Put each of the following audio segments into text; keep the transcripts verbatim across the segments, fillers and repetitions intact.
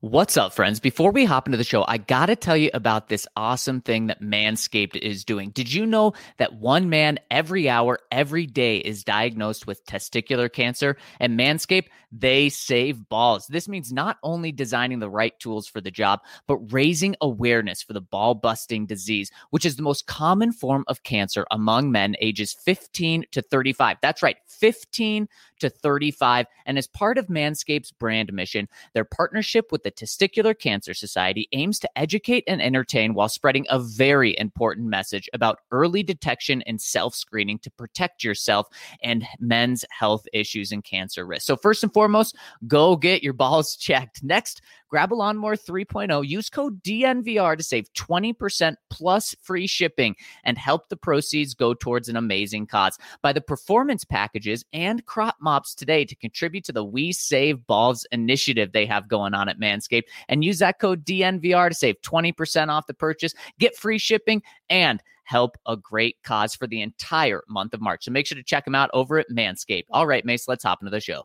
What's up, friends? Before we hop into the show, I got to tell you about this awesome thing that Manscaped is doing. Did you know that one man every hour, every day is diagnosed with testicular cancer? And Manscaped, they save balls. This means not only designing the right tools for the job, but raising awareness for the ball-busting disease, which is the most common form of cancer among men ages fifteen to thirty-five. That's right, fifteen to thirty-five. And as part of Manscaped's brand mission, their partnership with the Testicular Cancer Society aims to educate and entertain while spreading a very important message about early detection and self-screening to protect yourself and men's health issues and cancer risk. So first and foremost, go get your balls checked. Next, grab a Lawnmower three point oh, use code D N V R to save twenty percent plus free shipping and help the proceeds go towards an amazing cause. Buy the performance packages and crop mops today to contribute to the We Save Balls initiative they have going on at Manscaped, and use that code D N V R to save twenty percent off the purchase, get free shipping, and help a great cause for the entire month of March. So make sure to check them out over at Manscaped. All right, Mace, let's hop into the show.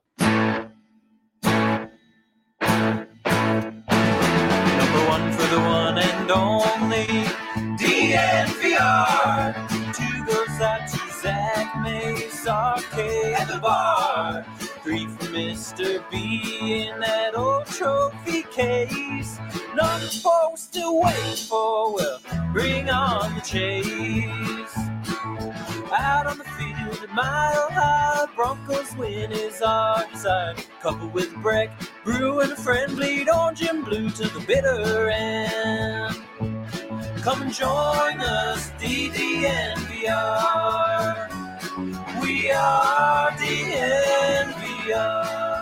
For the one and only D N V R. Two goes out to Zach Mace, R K at the bar. Three for Mister B in that old trophy case. Number four we're still waiting for, well, bring on the chase. Out on the field at Mile High, Broncos win is our desire. Couple with Breck, Brew and a friend, bleed orange and blue to the bitter end. Come and join us, D D N V R. We are D N V R.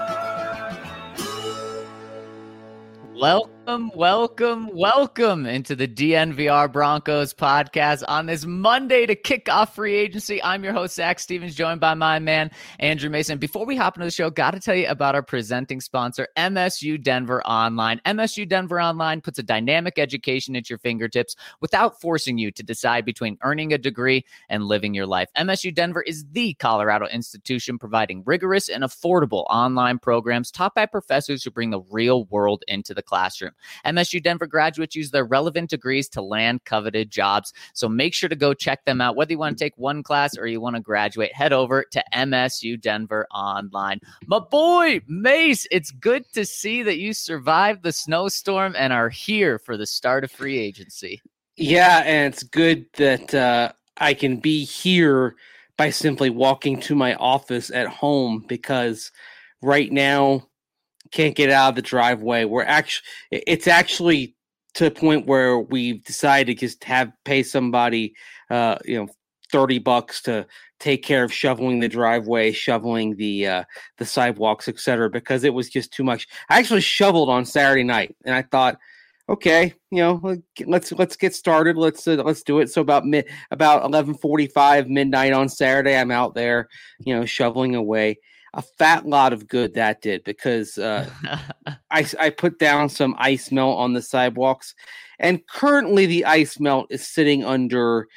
Welcome, welcome, welcome into the D N V R Broncos podcast on this Monday to kick off free agency. I'm your host, Zach Stevens, joined by my man, Andrew Mason. Before we hop into the show, got to tell you about our presenting sponsor, M S U Denver Online. M S U Denver Online puts a dynamic education at your fingertips without forcing you to decide between earning a degree and living your life. M S U Denver is the Colorado institution providing rigorous and affordable online programs taught by professors who bring the real world into the classroom. M S U Denver graduates use their relevant degrees to land coveted jobs. So make sure to go check them out. Whether you want to take one class or you want to graduate, head over to M S U Denver Online. My boy, Mace, it's good to see that you survived the snowstorm and are here for the start of free agency. Yeah, and it's good that uh, I can be here by simply walking to my office at home, because right now, can't get out of the driveway. We're actually, it's actually to the point where we've decided to just have pay somebody, uh, you know, thirty bucks to take care of shoveling the driveway, shoveling the uh, the sidewalks, et cetera, because it was just too much. I actually shoveled on Saturday night, and I thought, okay, you know, let's let's get started. Let's uh, let's do it. So about mid about eleven forty-five midnight on Saturday, I'm out there, you know, shoveling away. A fat lot of good that did, because uh, I, I put down some ice melt on the sidewalks, and currently the ice melt is sitting under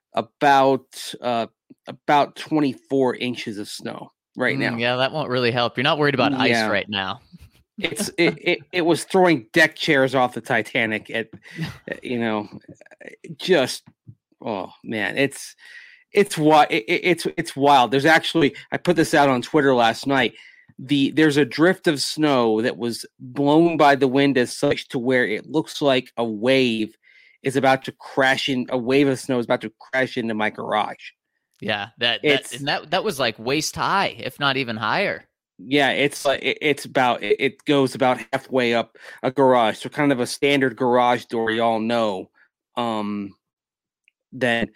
about uh, about twenty-four inches of snow right now. Mm, yeah, that won't really help. You're not worried about Yeah. ice right now. It's it, it it was throwing deck chairs off the Titanic. At you know, just oh man, it's. It's what it, it's it's wild. There's actually, I put this out on Twitter last night. The there's a drift of snow that was blown by the wind as such to where it looks like a wave is about to crash in. A wave of snow is about to crash into my garage. Yeah, that It's- that and that that was like waist high, if not even higher. Yeah, it's like it, it's about it, it goes about halfway up a garage, so kind of a standard garage door. Y'all know, um, then.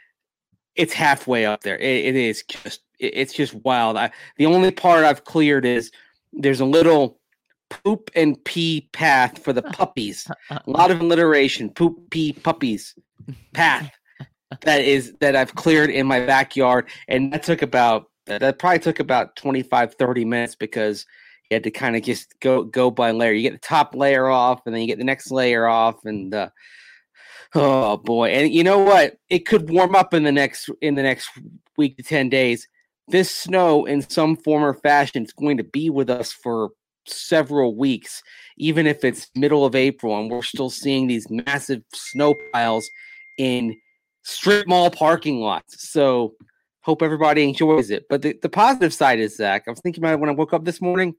It's halfway up there. It, it is just, it, it's just wild. I, the only part I've cleared is there's a little poop and pee path for the puppies. A lot of alliteration, poop, pee, puppies path that is, that I've cleared in my backyard. And that took about, that probably took about twenty-five, thirty minutes, because you had to kind of just go, go by layer. You get the top layer off, and then you get the next layer off, and, uh, oh boy. And you know what? It could warm up in the next in the next week to ten days. This snow in some form or fashion is going to be with us for several weeks, even if it's middle of April and we're still seeing these massive snow piles in strip mall parking lots. So hope everybody enjoys it. But the, the positive side is, Zach, I was thinking about it when I woke up this morning.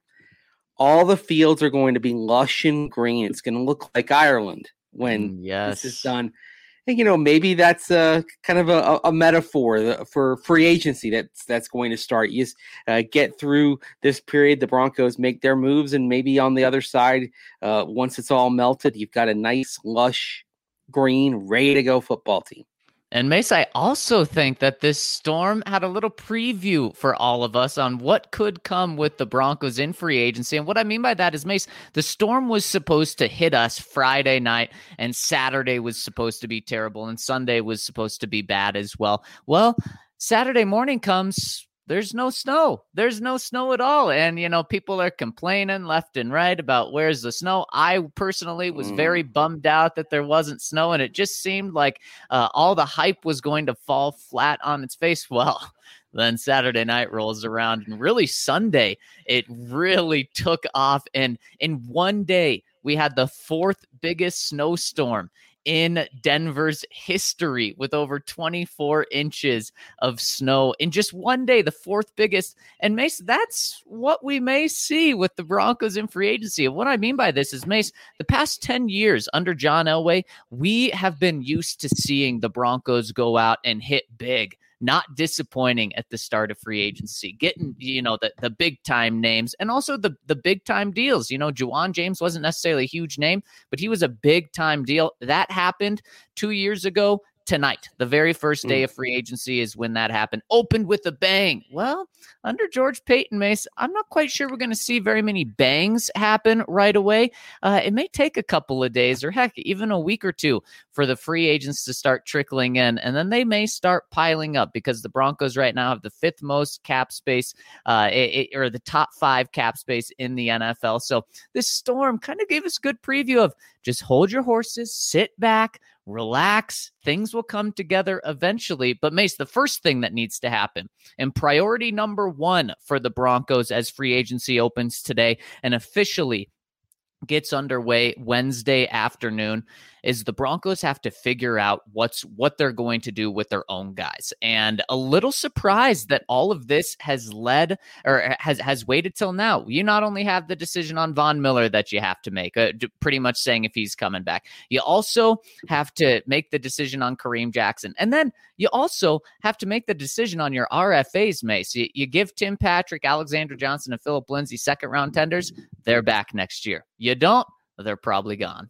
All the fields are going to be lush and green. It's going to look like Ireland when yes. this is done. And, you know, maybe that's a kind of a, a metaphor for free agency that's that's going to start. You just uh, get through this period, the Broncos make their moves, and maybe on the other side, uh, once it's all melted, you've got a nice, lush, green, ready-to-go football team. And Mace, I also think that this storm had a little preview for all of us on what could come with the Broncos in free agency. And what I mean by that is, Mace, the storm was supposed to hit us Friday night, and Saturday was supposed to be terrible, and Sunday was supposed to be bad as well. Well, Saturday morning comes, there's no snow. There's no snow at all. And, you know, people are complaining left and right about where's the snow. I personally was Mm. very bummed out that there wasn't snow, and it just seemed like uh, all the hype was going to fall flat on its face. Well, then Saturday night rolls around, and really Sunday, it really took off. And in one day, we had the fourth biggest snowstorm in Denver's history, with over twenty-four inches of snow in just one day, the fourth biggest. And Mace, that's what we may see with the Broncos in free agency. And what I mean by this is, Mace, the past ten years under John Elway, we have been used to seeing the Broncos go out and hit big, not disappointing at the start of free agency, getting, you know, the, the big time names, and also the, the big time deals. You know, Juwan James wasn't necessarily a huge name, but he was a big time deal. That happened two years ago tonight. The very first day Mm. of free agency is when that happened. Opened with a bang. Well, under George Payton, Mace, I'm not quite sure we're going to see very many bangs happen right away. Uh, it may take a couple of days, or heck, even a week or two for the free agents to start trickling in, and then they may start piling up, because the Broncos right now have the fifth most cap space, uh, it, it, or the top five cap space in the N F L. So this storm kind of gave us a good preview of just hold your horses, sit back, relax. Things will come together eventually. But Mace, the first thing that needs to happen, and priority number one for the Broncos as free agency opens today and officially gets underway Wednesday afternoon, is the Broncos have to figure out what's what they're going to do with their own guys. And a little surprised that all of this has led or has has waited till now. You not only have the decision on Von Miller that you have to make, uh, pretty much saying if he's coming back. You also have to make the decision on Kareem Jackson. And then you also have to make the decision on your R F As, Mace. You, you give Tim Patrick, Alexander Johnson, and Phillip Lindsay second round tenders. They're back next year. You don't, they're probably gone.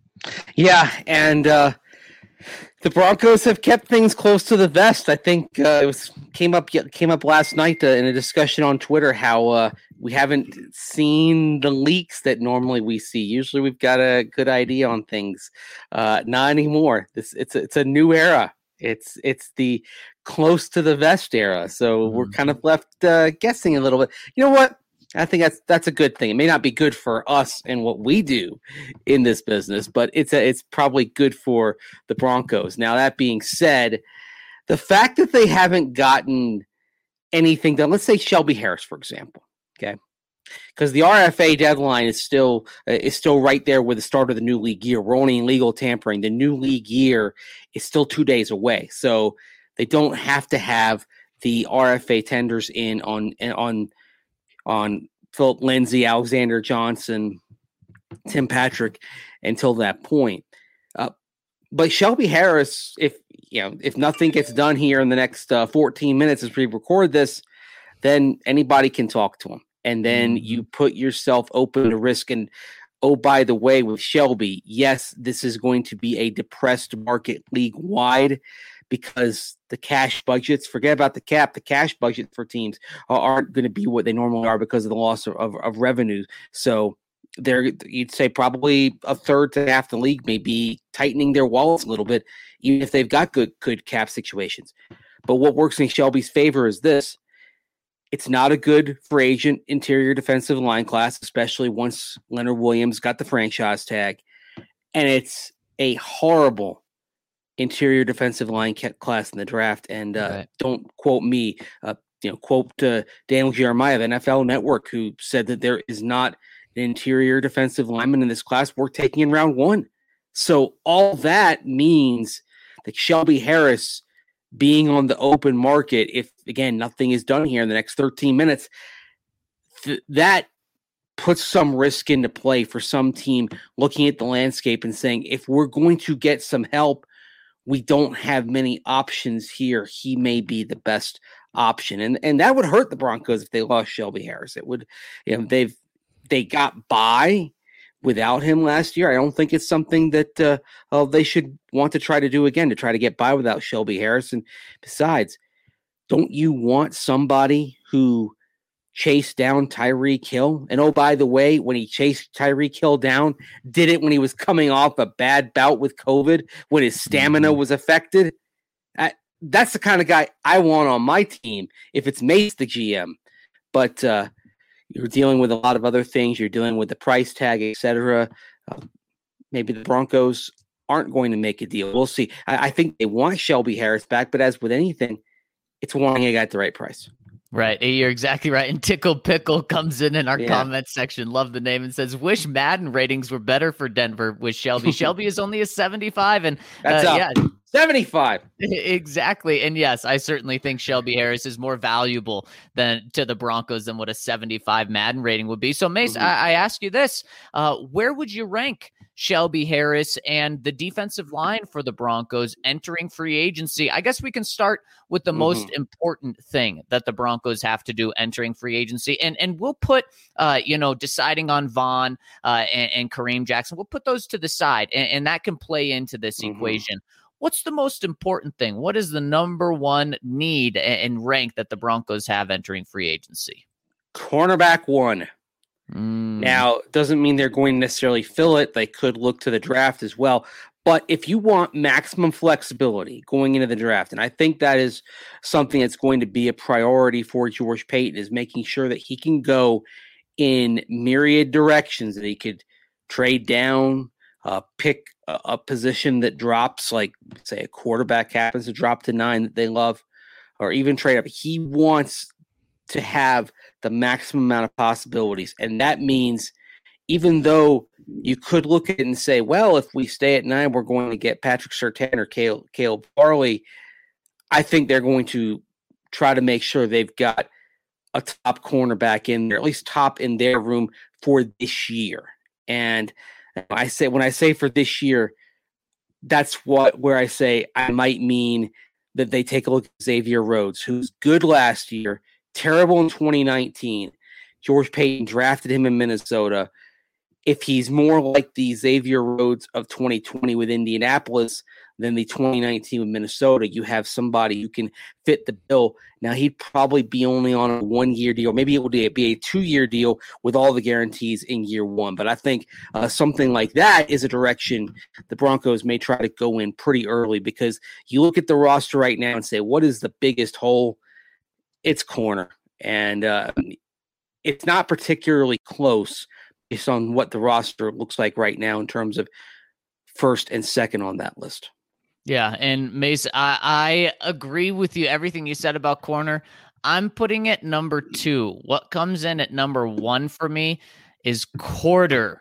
Yeah, and uh, the Broncos have kept things close to the vest. I think uh, it was came up came up last night uh, in a discussion on Twitter how uh, we haven't seen the leaks that normally we see. Usually, we've got a good idea on things. Uh, not anymore. This it's a, it's a new era. It's it's the close to the vest era. So mm-hmm. we're kind of left uh, guessing a little bit. You know what? I think that's that's a good thing. It may not be good for us and what we do in this business, but it's a, it's probably good for the Broncos. Now, that being said, the fact that they haven't gotten anything done, let's say Shelby Harris, for example, okay, because the R F A deadline is still uh, is still right there with the start of the new league year. We're only in legal tampering. The new league year is still two days away, so they don't have to have the R F A tenders in on on. on Phillip Lindsay, Alexander Johnson, Tim Patrick until that point. Uh, but Shelby Harris, if you know, if nothing gets done here in the next uh, fourteen minutes as we record this, then anybody can talk to him. And then you put yourself open to risk. And oh, by the way, with Shelby, yes, this is going to be a depressed market league-wide, because the cash budgets, forget about the cap, the cash budget for teams aren't going to be what they normally are because of the loss of, of, of revenue. So they're, you'd say probably a third to half the league may be tightening their wallets a little bit, even if they've got good, good cap situations. But what works in Shelby's favor is this. It's not a good free agent interior defensive line class, especially once Leonard Williams got the franchise tag. And it's a horrible interior defensive line class in the draft. And uh, right. don't quote me, uh, you know, quote uh, Daniel Jeremiah of N F L Network, who said that there is not an interior defensive lineman in this class worth taking in round one. So all that means that Shelby Harris being on the open market, if, again, nothing is done here in the next thirteen minutes, th- that puts some risk into play for some team looking at the landscape and saying, if we're going to get some help, we don't have many options here. He may be the best option. And and that would hurt the Broncos if they lost Shelby Harris. It would, you know, they've, they got by without him last year. I don't think it's something that uh, uh, they should want to try to do again, to try to get by without Shelby Harris. And besides, don't you want somebody who chased down Tyreek Hill? And oh, by the way, when he chased Tyreek Hill down, did it when he was coming off a bad bout with COVID, when his stamina was affected? I, that's the kind of guy I want on my team if it's Mace, the G M. But uh, you're dealing with a lot of other things. You're dealing with the price tag, et cetera. Uh, maybe the Broncos aren't going to make a deal. We'll see. I, I think they want Shelby Harris back, but as with anything, it's wanting a guy at the right price. Right. You're exactly right. And Tickle Pickle comes in in our yeah. comment section. Love the name, and says, wish Madden ratings were better for Denver with Shelby. Shelby is only a seventy-five. And That's uh, up. yeah, seventy-five. Exactly. And yes, I certainly think Shelby Harris is more valuable than to the Broncos than what a seventy-five Madden rating would be. So Mace, mm-hmm. I, I ask you this, uh, where would you rank Shelby Harris and the defensive line for the Broncos entering free agency? I guess we can start with the mm-hmm. most important thing that the Broncos have to do entering free agency. And and we'll put, uh, you know, deciding on Vaughn uh, and, and Kareem Jackson, we'll put those to the side, and, and that can play into this mm-hmm. equation. What's the most important thing? What is the number one need and rank that the Broncos have entering free agency? Cornerback one. Mm. Now, doesn't mean they're going to necessarily fill it. They could look to the draft as well. But if you want maximum flexibility going into the draft, and I think that is something that's going to be a priority for George Paton, is making sure that he can go in myriad directions, that he could trade down, uh, pick a, a position that drops, like, say, a quarterback happens to drop to nine that they love, or even trade up. He wants to have the maximum amount of possibilities. And that means, even though you could look at it and say, well, if we stay at nine, we're going to get Patrick Surtain or Caleb, Caleb Farley, I think they're going to try to make sure they've got a top cornerback in there, at least top in their room for this year. And I say, when I say for this year, that's what, where I say I might mean that they take a look at Xavier Rhodes, who's good last year, terrible in twenty nineteen. George Paton drafted him in Minnesota. If he's more like the Xavier Rhodes of twenty twenty with Indianapolis than the twenty nineteen with Minnesota, you have somebody who can fit the bill. Now, he'd probably be only on a one-year deal. Maybe it would be a two-year deal with all the guarantees in year one. But I think uh, something like that is a direction the Broncos may try to go in pretty early, because you look at the roster right now and say, what is the biggest hole? It's corner. And uh, it's not particularly close based on what the roster looks like right now in terms of first and second on that list. Yeah, and Mace, I, I agree with you, everything you said about corner. I'm putting it number two. What comes in at number one for me is quarterback.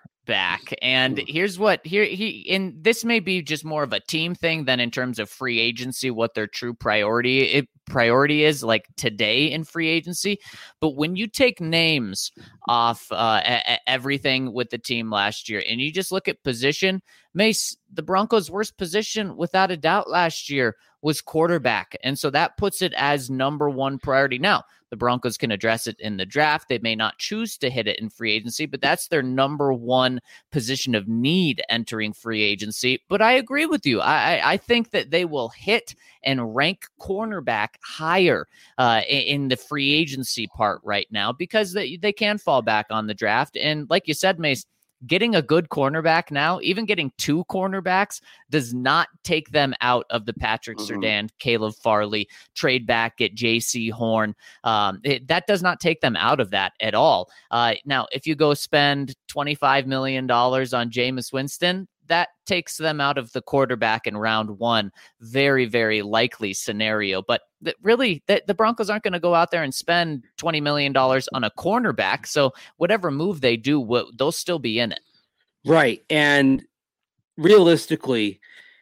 And here's what here he and this may be just more of a team thing than in terms of free agency, what their true priority it, priority is like today in free agency. But when you take names off uh, a, a, everything with the team last year, and you just look at position, Mace, the Broncos' worst position without a doubt last year was quarterback. And so that puts it as number one priority. Now, the Broncos can address it in the draft. They may not choose to hit it in free agency, but that's their number one position of need entering free agency. But I agree with you. I, I think that they will hit and rank cornerback higher uh, in the free agency part right now, because they, they can fall back on the draft. And like you said, Mace, getting a good cornerback now, even getting two cornerbacks, does not take them out of the Patrick mm-hmm. Surtain, Caleb Farley trade back at J C Horn. Um, it, that does not take them out of that at all. Uh, now, if you go spend twenty-five million dollars on Jameis Winston, that takes them out of the quarterback in round one. Very, very likely scenario. But th- really, th- the Broncos aren't going to go out there and spend twenty million dollars on a cornerback. So whatever move they do, w- they'll still be in it. Right. And realistically,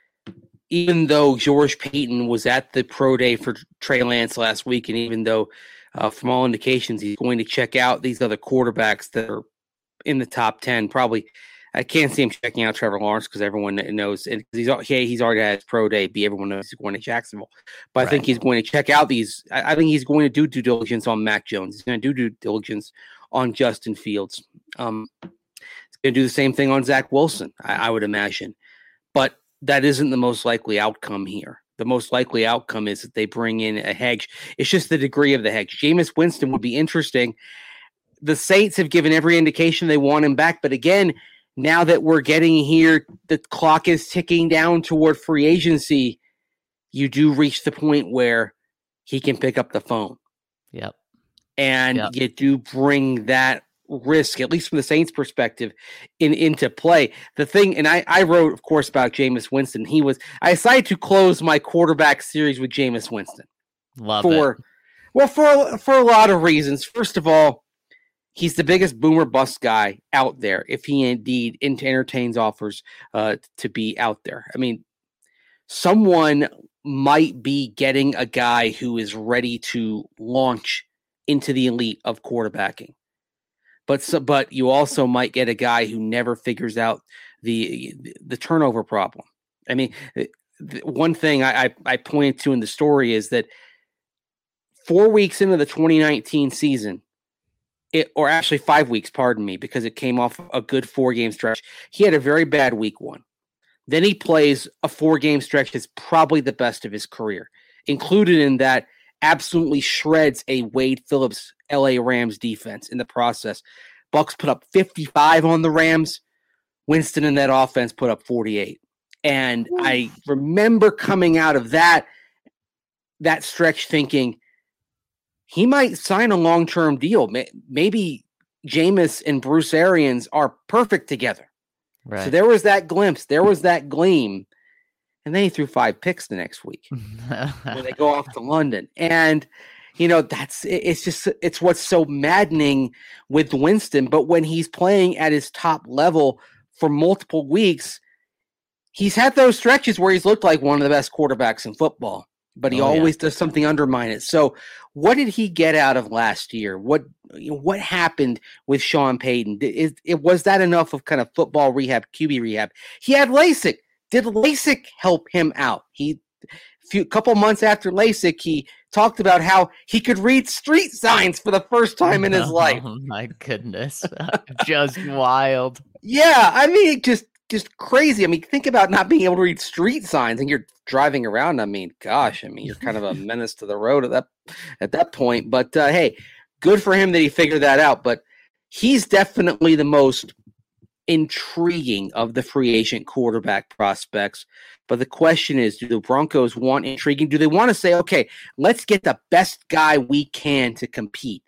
even though George Payton was at the pro day for Trey Lance last week, and even though uh, from all indications he's going to check out these other quarterbacks that are in the top ten, probably I can't see him checking out Trevor Lawrence because everyone knows and he's hey, he's already had his pro day. B everyone knows he's going to Jacksonville, but right. I think he's going to check out these. I, I think he's going to do due diligence on Mac Jones. He's going to do due diligence on Justin Fields. Um, he's going to do the same thing on Zach Wilson, I, I would imagine, but that isn't the most likely outcome here. The most likely outcome is that they bring in a hedge. It's just the degree of the hedge. Jameis Winston would be interesting. The Saints have given every indication they want him back, but again, now that we're getting here, the clock is ticking down toward free agency. You do reach the point where he can pick up the phone. Yep. And yep. you do bring that risk, at least from the Saints' perspective, in into play. The thing, and I, I wrote, of course, about Jameis Winston. He was, I decided to close my quarterback series with Jameis Winston. Love for, it. Well, for, for a lot of reasons. First of all, he's the biggest boomer bust guy out there if he indeed entertains offers uh, to be out there. I mean, someone might be getting a guy who is ready to launch into the elite of quarterbacking. But so, but you also might get a guy who never figures out the the turnover problem. I mean, one thing I, I, I pointed to in the story is that four weeks into the twenty nineteen season, It, or actually five weeks, pardon me, because it came off a good four-game stretch. He had a very bad week one. Then he plays a four-game stretch that's probably the best of his career. Included in that, absolutely shreds a Wade Phillips L A Rams defense in the process. Bucks put up fifty-five on the Rams. Winston in that offense put up forty-eight. And Ooh. I remember coming out of that, that stretch thinking, he might sign a long-term deal. Maybe Jameis and Bruce Arians are perfect together. Right. So there was that glimpse. There was that gleam. And then he threw five picks the next week when they go off to London. And, you know, that's it's just it's what's so maddening with Winston. But when he's playing at his top level for multiple weeks, he's had those stretches where he's looked like one of the best quarterbacks in football. But he oh, always yeah. does something undermine it. So what did he get out of last year? What you know, what happened with Sean Payton? Is, it, was that enough of kind of football rehab, Q B rehab? He had LASIK. Did LASIK help him out? He a few couple months after LASIK, he talked about how he could read street signs for the first time in his oh, life. Oh my goodness. Just wild. Yeah, I mean, just just crazy. I mean, think about not being able to read street signs and you're driving around. I mean, gosh, I mean, you're kind of a menace to the road at that at that point. But uh, hey, good for him that he figured that out. But he's definitely the most intriguing of the free agent quarterback prospects. But the question is, do the Broncos want intriguing? Do they want to say, okay, let's get the best guy we can to compete?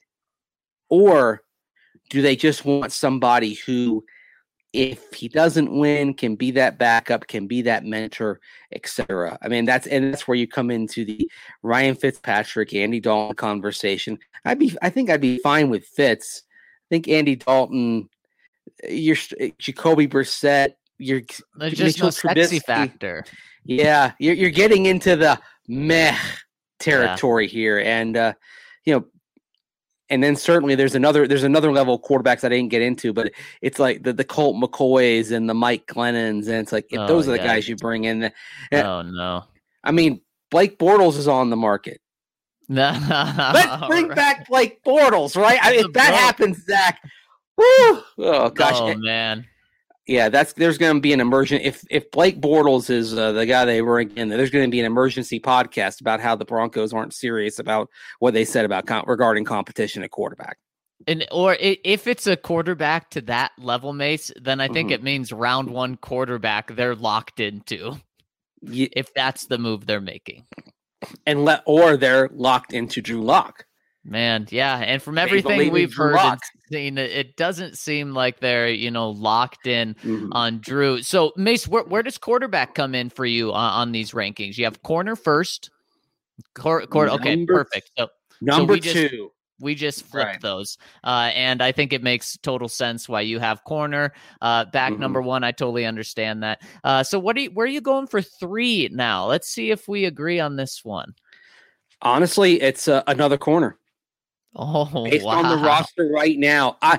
Or do they just want somebody who, if he doesn't win, can be that backup, can be that mentor, et cetera? I mean, that's and that's where you come into the Ryan Fitzpatrick, Andy Dalton conversation. I'd be, I think I'd be fine with Fitz. I think Andy Dalton, you're Jacoby Brissett, you're there's just no sexy factor. Yeah, you're you're getting into the meh territory yeah. here, and uh, you know. And then certainly there's another there's another level of quarterbacks I didn't get into, but it's like the, the Colt McCoys and the Mike Glennons, and it's like if oh, those are the yeah. guys you bring in. Oh no! I mean, Blake Bortles is on the market. No, let's bring right. back Blake Bortles, right? I mean, if that Bro. happens, Zach. Woo! Oh gosh! Oh man! Yeah, that's there's going to be an emergent. If if Blake Bortles is uh, the guy they bring in, there's going to be an emergency podcast about how the Broncos aren't serious about what they said about com- regarding competition at quarterback. And or if it's a quarterback to that level, Mace, then I think Mhm. it means round one quarterback they're locked into. Yeah. If that's the move they're making, And let or they're locked into Drew Lock. Man, yeah, and from everything we've heard and seen, it doesn't seem like they're, you know, locked in mm-hmm. on Drew. So, Mace, where, where does quarterback come in for you on, on these rankings? You have corner first. Cor- cor- okay, number, perfect. So, number so we just, two. We just flipped right. those, uh, and I think it makes total sense why you have corner uh, back mm-hmm. number one. I totally understand that. Uh, so, what are you, where are you going for three now? Let's see if we agree on this one. Honestly, it's uh, another corner. Oh, based wow. on the roster right now, I,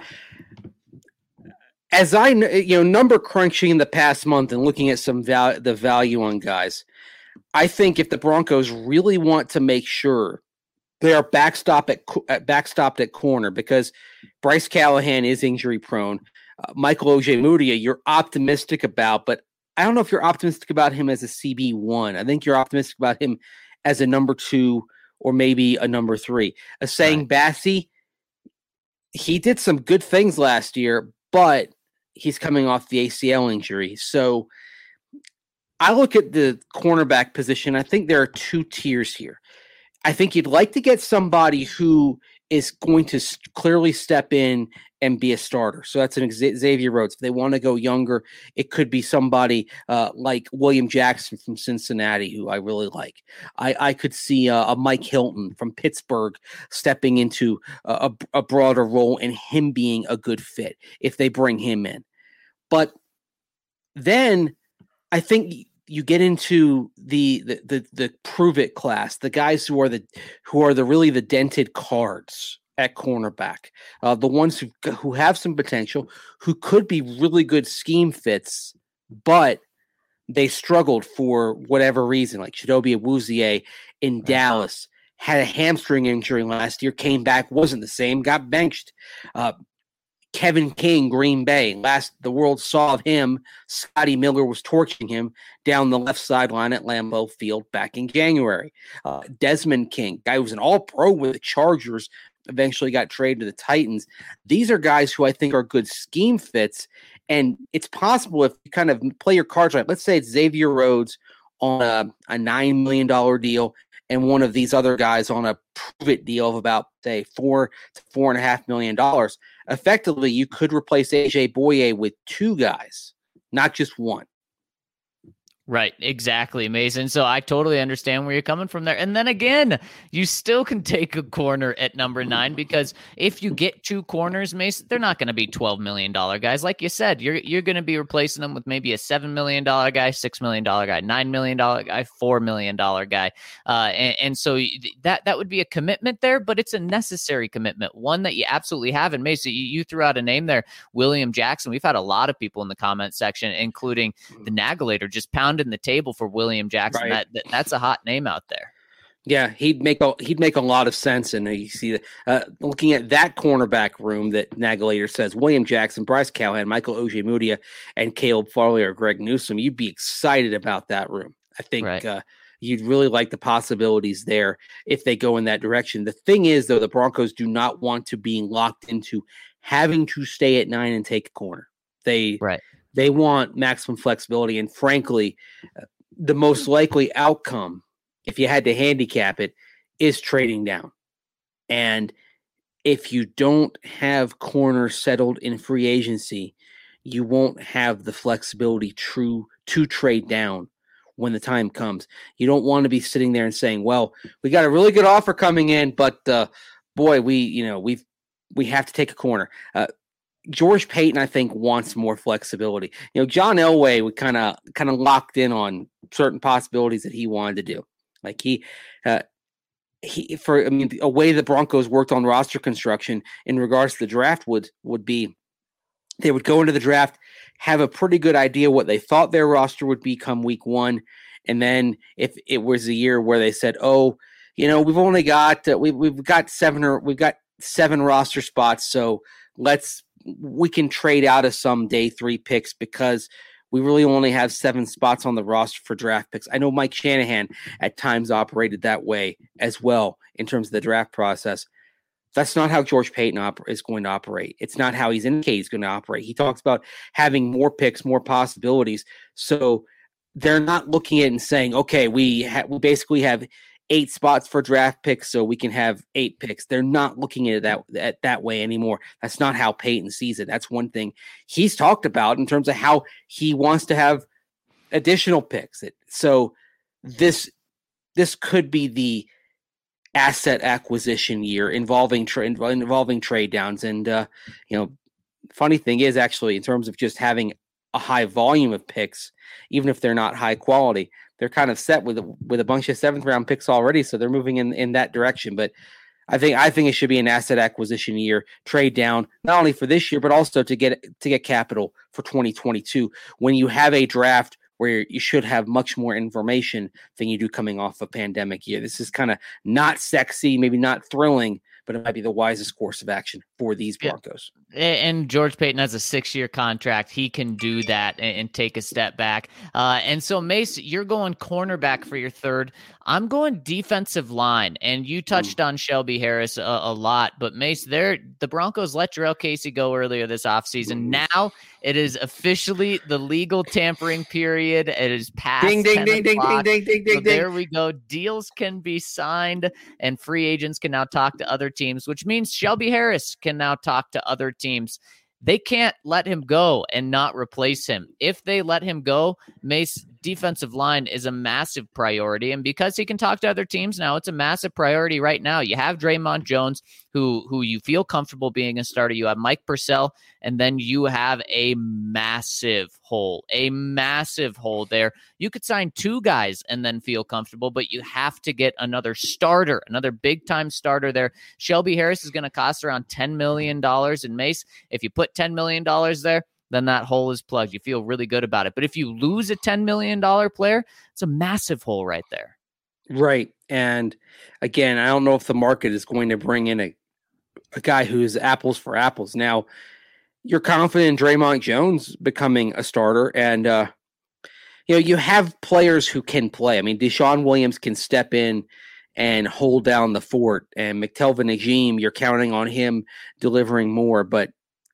as I you know, number crunching in the past month and looking at some val- the value on guys, I think if the Broncos really want to make sure they are backstop at, at backstopped at corner, because Bryce Callahan is injury prone, uh, Michael Ojemudia, you're optimistic about, but I don't know if you're optimistic about him as a C B one. I think you're optimistic about him as a number two or maybe a number three. A saying right. Bassey, he did some good things last year, but he's coming off the A C L injury. So I look at the cornerback position. I think there are two tiers here. I think you'd like to get somebody who is going to clearly step in and be a starter. So that's an Xavier Rhodes. If they want to go younger, it could be somebody uh, like William Jackson from Cincinnati, who I really like. I, I could see uh, a Mike Hilton from Pittsburgh stepping into a, a broader role and him being a good fit if they bring him in. But then I think you get into the the the, the prove it class, the guys who are the who are the really the dented cards at cornerback, uh, the ones who who have some potential, who could be really good scheme fits, but they struggled for whatever reason. Like Chidobe Awuzie in Dallas had a hamstring injury last year, came back, wasn't the same, got benched. Uh, Kevin King, Green Bay. Last the world saw of him, Scotty Miller was torching him down the left sideline at Lambeau Field back in January. Uh, Desmond King, guy who was an all-pro with the Chargers, eventually got traded to the Titans. These are guys who I think are good scheme fits, and it's possible if you kind of play your cards right. Let's say it's Xavier Rhodes on a, a nine million dollars deal and one of these other guys on a prove-it deal of about, say, four to four and a half million dollars. Effectively, you could replace A J Boye with two guys, not just one. Right, exactly, Mason. So I totally understand where you're coming from there. And then again, you still can take a corner at number nine, because if you get two corners, Mason, they're not going to be twelve million dollars guys. Like you said, you're you're going to be replacing them with maybe a seven million dollars guy, six million dollars guy, nine million dollars guy, four million dollars guy. Uh, and, and so that, that would be a commitment there, but it's a necessary commitment, one that you absolutely have. And Mason, you, you threw out a name there, William Jackson. We've had a lot of people in the comment section, including the Nagelator, just pound in the table for William Jackson. Right. That, that that's a hot name out there. Yeah, he'd make a he'd make a lot of sense. And you see, uh, looking at that cornerback room that Nagelator says William Jackson, Bryce Callahan, Michael Ojemudia, and Caleb Farley or Greg Newsome, you'd be excited about that room. I think right. uh, you'd really like the possibilities there if they go in that direction. The thing is, though, the Broncos do not want to be locked into having to stay at nine and take a corner. They right. They want maximum flexibility, and frankly, uh, the most likely outcome, if you had to handicap it, is trading down. And if you don't have corners settled in free agency, you won't have the flexibility true to trade down when the time comes. You don't want to be sitting there and saying, well, we got a really good offer coming in, but uh, boy, we, you know, we've, we have to take a corner. Uh, George Paton, I think, wants more flexibility. You know, John Elway would kind of kind of locked in on certain possibilities that he wanted to do. Like he, uh, he for I mean, a way the Broncos worked on roster construction in regards to the draft would would be they would go into the draft, have a pretty good idea what they thought their roster would be come week one, and then if it was a year where they said, oh, you know, we've only got uh, we we've got seven or we've got seven roster spots, so let's. We can trade out of some day three picks because we really only have seven spots on the roster for draft picks. I know Mike Shanahan at times operated that way as well in terms of the draft process. That's not how George Paton op- is going to operate. It's not how he's indicated he's going to operate. He talks about having more picks, more possibilities. So they're not looking at it and saying, okay, we ha- we basically have eight spots for draft picks so we can have eight picks. They're not looking at it that, that, that way anymore. That's not how Peyton sees it. That's one thing he's talked about in terms of how he wants to have additional picks. So this this could be the asset acquisition year involving tra- involving trade downs. And uh, you know, funny thing is actually in terms of just having a high volume of picks, even if they're not high quality, they're kind of set with a, with a bunch of seventh round picks already. So they're moving in, in that direction. But I think I think it should be an asset acquisition year, trade down, not only for this year, but also to get to get capital for twenty twenty-two when you have a draft where you should have much more information than you do coming off a pandemic year. This is kind of not sexy, maybe not thrilling, but it might be the wisest course of action for these Broncos. Yeah. And George Paton has a six-year contract. He can do that and, and take a step back. Uh, and so, Mace, you're going cornerback for your third. I'm going defensive line, and you touched on Shelby Harris a, a lot. But, Mace, there the Broncos let Jurrell Casey go earlier this offseason. Now it is officially the legal tampering period. It is past ding, ding, ding, ding, ding, ding, ding, ding, so there we go. Deals can be signed, and free agents can now talk to other teams, which means Shelby Harris can now talk to other teams. They can't let him go and not replace him. If they let him go, Mace, defensive line is a massive priority. And because he can talk to other teams now, it's a massive priority right now. You have Draymond Jones, who who you feel comfortable being a starter. You have Mike Purcell, and then you have a massive hole, a massive hole there. You could sign two guys and then feel comfortable, but you have to get another starter, another big-time starter there. Shelby Harris is going to cost around ten million dollars in Mace. If you put ten million dollars there, then that hole is plugged. You feel really good about it. But if you lose a ten million dollars player, it's a massive hole right there. Right. And again, I don't know if the market is going to bring in a, a guy who's apples for apples. Now, you're confident in Draymond Jones becoming a starter. And, uh, you know, you have players who can play. I mean, Deshaun Williams can step in and hold down the fort. And McTelvin Agim, you're counting on him delivering more. But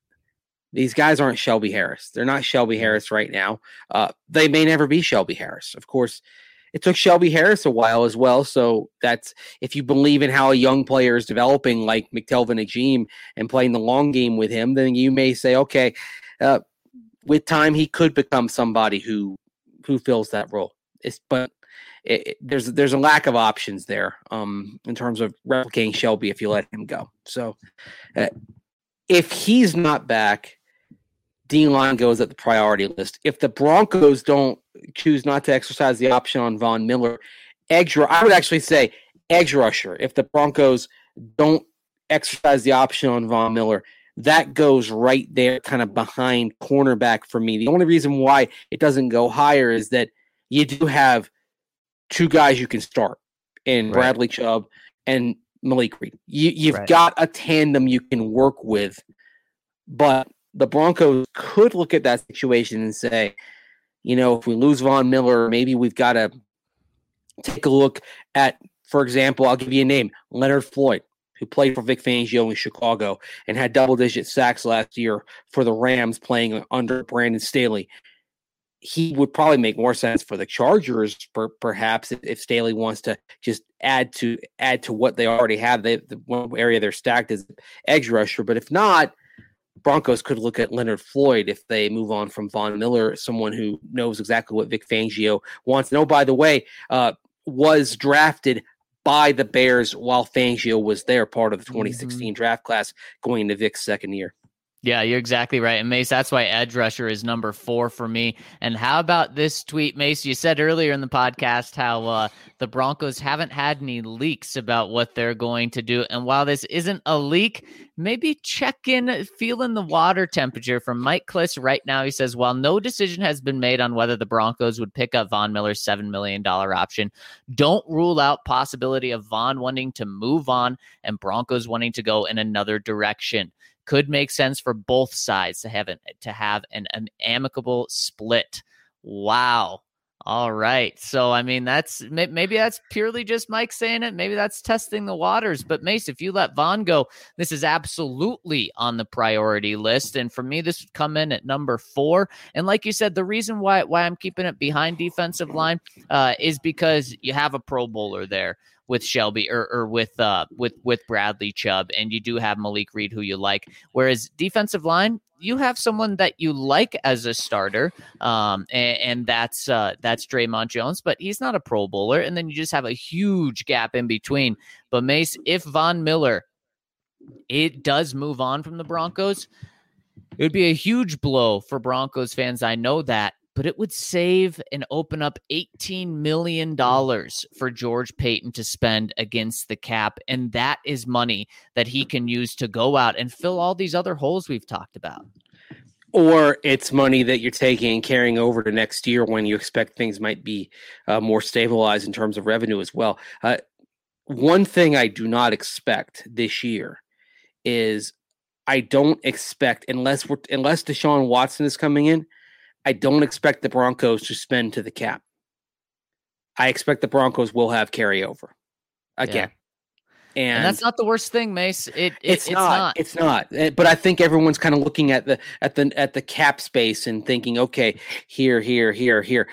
these guys aren't Shelby Harris. They're not Shelby Harris right now. Uh, they may never be Shelby Harris. Of course, it took Shelby Harris a while as well. So that's if you believe in how a young player is developing, like McTelvin Agim, and playing the long game with him, then you may say, okay, uh, with time he could become somebody who who fills that role. It's, but it, it, there's there's a lack of options there um, in terms of replicating Shelby if you let him go. So uh, if he's not back, D-line goes at the priority list. If the Broncos don't choose not to exercise the option on Von Miller, edge, I would actually say edge rusher. If the Broncos don't exercise the option on Von Miller, that goes right there kind of behind cornerback for me. The only reason why it doesn't go higher is that you do have two guys you can start in right. Bradley Chubb and Malik Reed. You, you've right. got a tandem you can work with, but the Broncos could look at that situation and say, you know, if we lose Von Miller, maybe we've got to take a look at, for example, I'll give you a name, Leonard Floyd, who played for Vic Fangio in Chicago and had double-digit sacks last year for the Rams playing under Brandon Staley. He would probably make more sense for the Chargers, per, perhaps, if, if Staley wants to just add to add to what they already have. They, the one area they're stacked is edge rusher, but if not, Broncos could look at Leonard Floyd if they move on from Von Miller, someone who knows exactly what Vic Fangio wants. And oh, by the way, uh, was drafted by the Bears while Fangio was there, part of the twenty sixteen mm-hmm. draft class going into Vic's second year. Yeah, you're exactly right. And Mace, that's why edge rusher is number four for me. And how about this tweet, Mace? You said earlier in the podcast how uh, the Broncos haven't had any leaks about what they're going to do. And while this isn't a leak, maybe check in, feel in the water temperature from Mike Kliss right now. He says, while no decision has been made on whether the Broncos would pick up Von Miller's seven million dollars option, don't rule out possibility of Von wanting to move on and Broncos wanting to go in another direction. Could make sense for both sides to have an, to have an, an amicable split. Wow. All right. So, I mean, that's maybe that's purely just Mike saying it. Maybe that's testing the waters. But, Mace, if you let Von go, this is absolutely on the priority list. And for me, this would come in at number four. And like you said, the reason why, why I'm keeping it behind defensive line uh, is because you have a Pro Bowler there. with Shelby or, or with uh with with Bradley Chubb, and you do have Malik Reed, who you like. Whereas defensive line, you have someone that you like as a starter, um, and, and that's uh, that's Draymond Jones, but he's not a Pro Bowler. And then you just have a huge gap in between. But Mace, if Von Miller it does move on from the Broncos, it would be a huge blow for Broncos fans. I know that, but it would save and open up eighteen million dollars for George Paton to spend against the cap. And that is money that he can use to go out and fill all these other holes we've talked about. Or it's money that you're taking and carrying over to next year when you expect things might be uh, more stabilized in terms of revenue as well. Uh, one thing I do not expect this year is I don't expect, unless we're, unless Deshaun Watson is coming in, I don't expect the Broncos to spend to the cap. I expect the Broncos will have carryover again. Yeah. And, and that's not the worst thing, Mace. It, it it's, it's not, not. It's not. But I think everyone's kind of looking at the at the at the cap space and thinking, okay, here, here, here, here.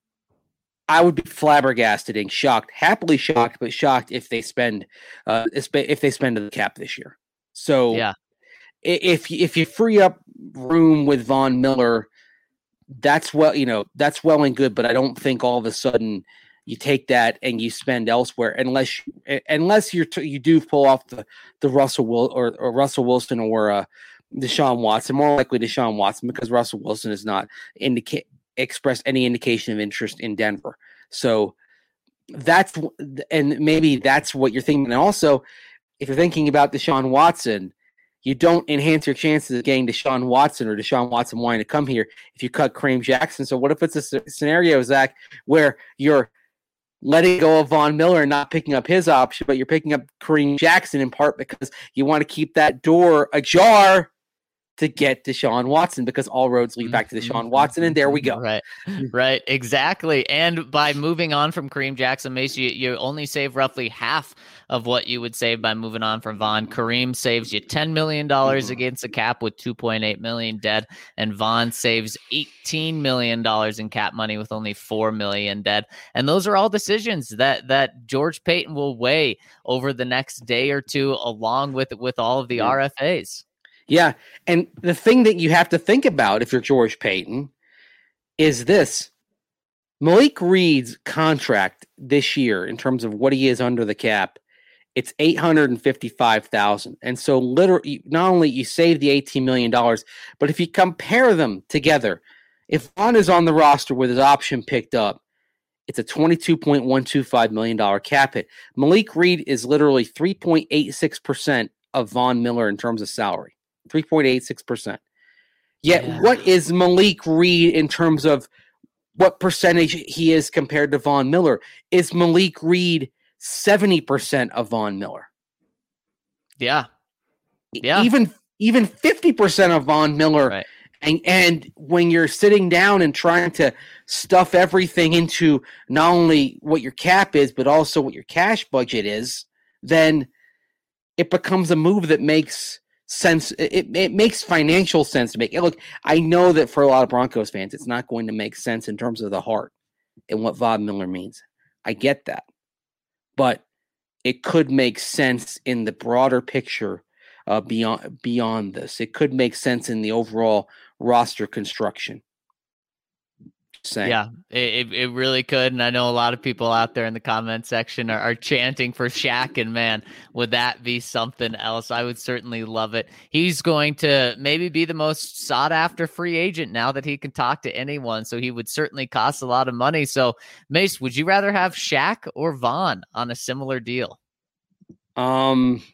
I would be flabbergasted and shocked, happily shocked, but shocked if they spend uh, if they spend to the cap this year. So yeah, if if you free up room with Von Miller, that's well, you know, that's well and good. But I don't think all of a sudden you take that and you spend elsewhere, unless unless you you do pull off the the Russell Will or, or Russell Wilson or uh, Deshaun Watson. More likely Deshaun Watson, because Russell Wilson has not indicate expressed any indication of interest in Denver. So that's and maybe that's what you're thinking. And also, if you're thinking about Deshaun Watson, you don't enhance your chances of getting Deshaun Watson or Deshaun Watson wanting to come here if you cut Kareem Jackson. So what if it's a scenario, Zach, where you're letting go of Von Miller and not picking up his option, but you're picking up Kareem Jackson in part because you want to keep that door ajar to get Deshaun Watson, because all roads lead back to Deshaun Watson, and there we go. Right, right, exactly. And by moving on from Kareem Jackson, Mace, you, you only save roughly half of what you would save by moving on from Von. Kareem saves you ten million dollars mm-hmm. against the cap with two point eight million dollars dead, and Von saves eighteen million dollars in cap money with only four million dollars dead. And those are all decisions that that George Paton will weigh over the next day or two, along with, with all of the yeah. R F As. Yeah, and the thing that you have to think about if you're George Paton is this. Malik Reed's contract this year, in terms of what he is under the cap, it's eight hundred fifty-five thousand dollars. And so literally, not only you save the eighteen million dollars, but if you compare them together, if Von is on the roster with his option picked up, it's a twenty-two point one two five million dollars cap hit. Malik Reed is literally three point eight six percent of Von Miller in terms of salary. three point eight six percent. Yet, yeah. what is Malik Reed in terms of what percentage he is compared to Von Miller? Is Malik Reed seventy percent of Von Miller? Yeah. Yeah. Even, even fifty percent of Von Miller. Right. And, and when you're sitting down and trying to stuff everything into not only what your cap is, but also what your cash budget is, then it becomes a move that makes sense. It, it makes financial sense to make it. Look, I know that for a lot of Broncos fans, it's not going to make sense in terms of the heart and what Von Miller means. I get that. But it could make sense in the broader picture uh, beyond beyond this. It could make sense in the overall roster construction. Saying. Yeah, it, it really could. And I know a lot of people out there in the comment section are, are chanting for Shaq, and man, would that be something else? I would certainly love it. He's going to maybe be the most sought after free agent now that he can talk to anyone. So he would certainly cost a lot of money. So Mace, would you rather have Shaq or Von on a similar deal? Um,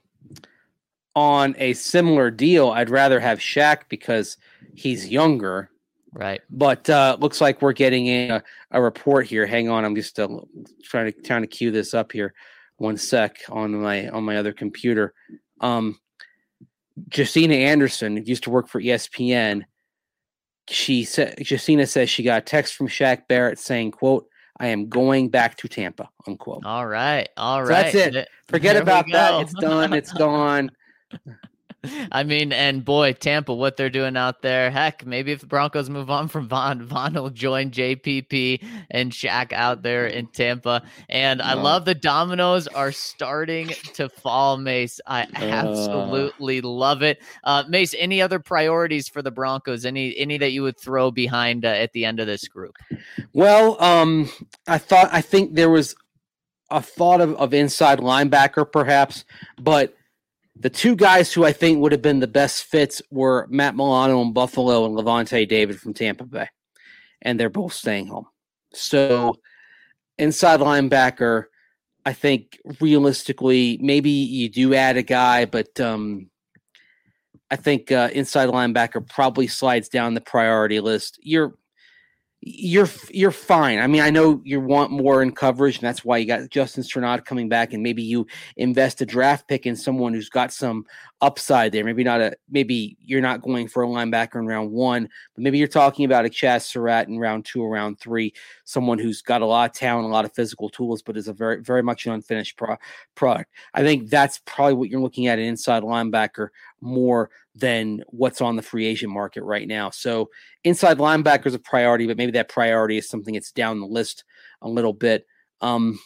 on a similar deal, I'd rather have Shaq because he's younger. Right. But uh, looks like we're getting in a, a report here. Hang on. I'm just uh, trying to trying to queue this up here. One sec on my on my other computer. Um, Josina Anderson used to work for E S P N. She said, Josina says she got a text from Shaq Barrett saying, quote, "I am going back to Tampa," unquote. All right. All so right. That's it. Forget there about that. It's done. It's gone. I mean, and boy, Tampa, what they're doing out there. Heck, maybe if the Broncos move on from Von, Von will join J P P and Shaq out there in Tampa. And I No. love the dominoes are starting to fall, Mace. I absolutely uh. love it. Uh, Mace, any other priorities for the Broncos? Any any that you would throw behind uh, at the end of this group? Well, um, I thought I think there was a thought of, of inside linebacker, perhaps, but the two guys who I think would have been the best fits were Matt Milano in Buffalo and Levante David from Tampa Bay, and they're both staying home. So inside linebacker, I think realistically, maybe you do add a guy, but um, I think uh, inside linebacker probably slides down the priority list. You're You're you're fine. I mean, I know you want more in coverage, and that's why you got Justin Strnad coming back, and maybe you invest a draft pick in someone who's got some upside there. Maybe not a maybe you're not going for a linebacker in round one, but maybe you're talking about a Chaz Surratt in round two or round three, someone who's got a lot of talent, a lot of physical tools, but is a very very much an unfinished pro- product. I think that's probably what you're looking at an inside linebacker more than what's on the free agent market right now. So inside linebacker is a priority, but maybe that priority is something that's down the list a little bit. Um,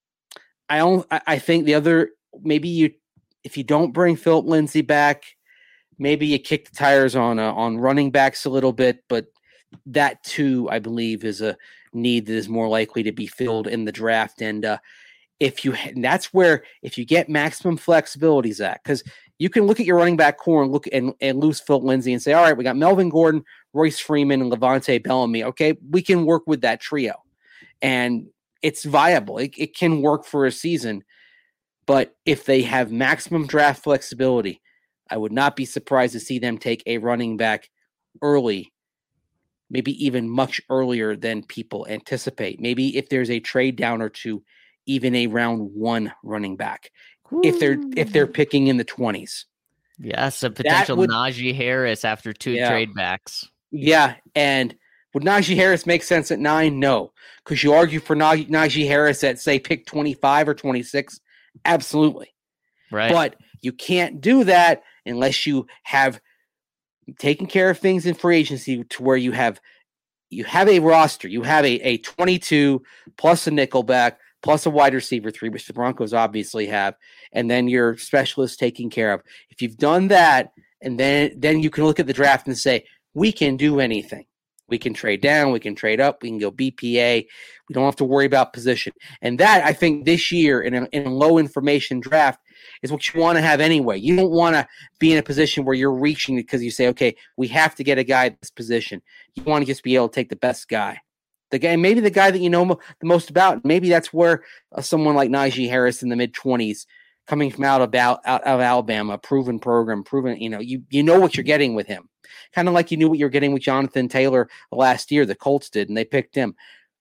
I don't, I think the other, maybe you, if you don't bring Philip Lindsay back, maybe you kick the tires on, uh, on running backs a little bit, but that too, I believe is a need that is more likely to be filled in the draft. And, uh, if you, and that's where, if you get maximum flexibility, Zach, because you can look at your running back core and look and, and lose Philip Lindsay and say, all right, we got Melvin Gordon, Royce Freeman, and Levante Bellamy. Okay, we can work with that trio. And it's viable. It, it can work for a season. But if they have maximum draft flexibility, I would not be surprised to see them take a running back early, maybe even much earlier than people anticipate. Maybe if there's a trade down or two, even a round one running back. Ooh. If they're if they're picking in the twenties. Yes, a potential would, Najee Harris after two yeah. trade backs. Yeah, and would Najee Harris make sense at nine? No. Could you argue for Najee, Najee Harris at, say, pick twenty-five or twenty-six? Absolutely. Right. But you can't do that unless you have taken care of things in free agency to where you have you have a roster. You have a, a twenty-two plus a nickelback plus a wide receiver three, which the Broncos obviously have, and then your specialist taken care of. If you've done that, and then then you can look at the draft and say, we can do anything. We can trade down, we can trade up, we can go B P A. We don't have to worry about position. And that, I think, this year in a, in a low information draft is what you want to have anyway. You don't want to be in a position where you're reaching because you say, okay, we have to get a guy at this position. You want to just be able to take the best guy. The guy, maybe the guy that you know mo- the most about. Maybe that's where uh, someone like Najee Harris in the mid twenties, coming from out of out, out of Alabama, proven program, proven. You know, you you know what you're getting with him. Kind of like you knew what you were getting with Jonathan Taylor last year. The Colts did, and they picked him.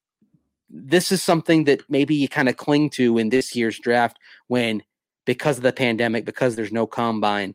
This is something that maybe you kind of cling to in this year's draft when, because of the pandemic, because there's no combine,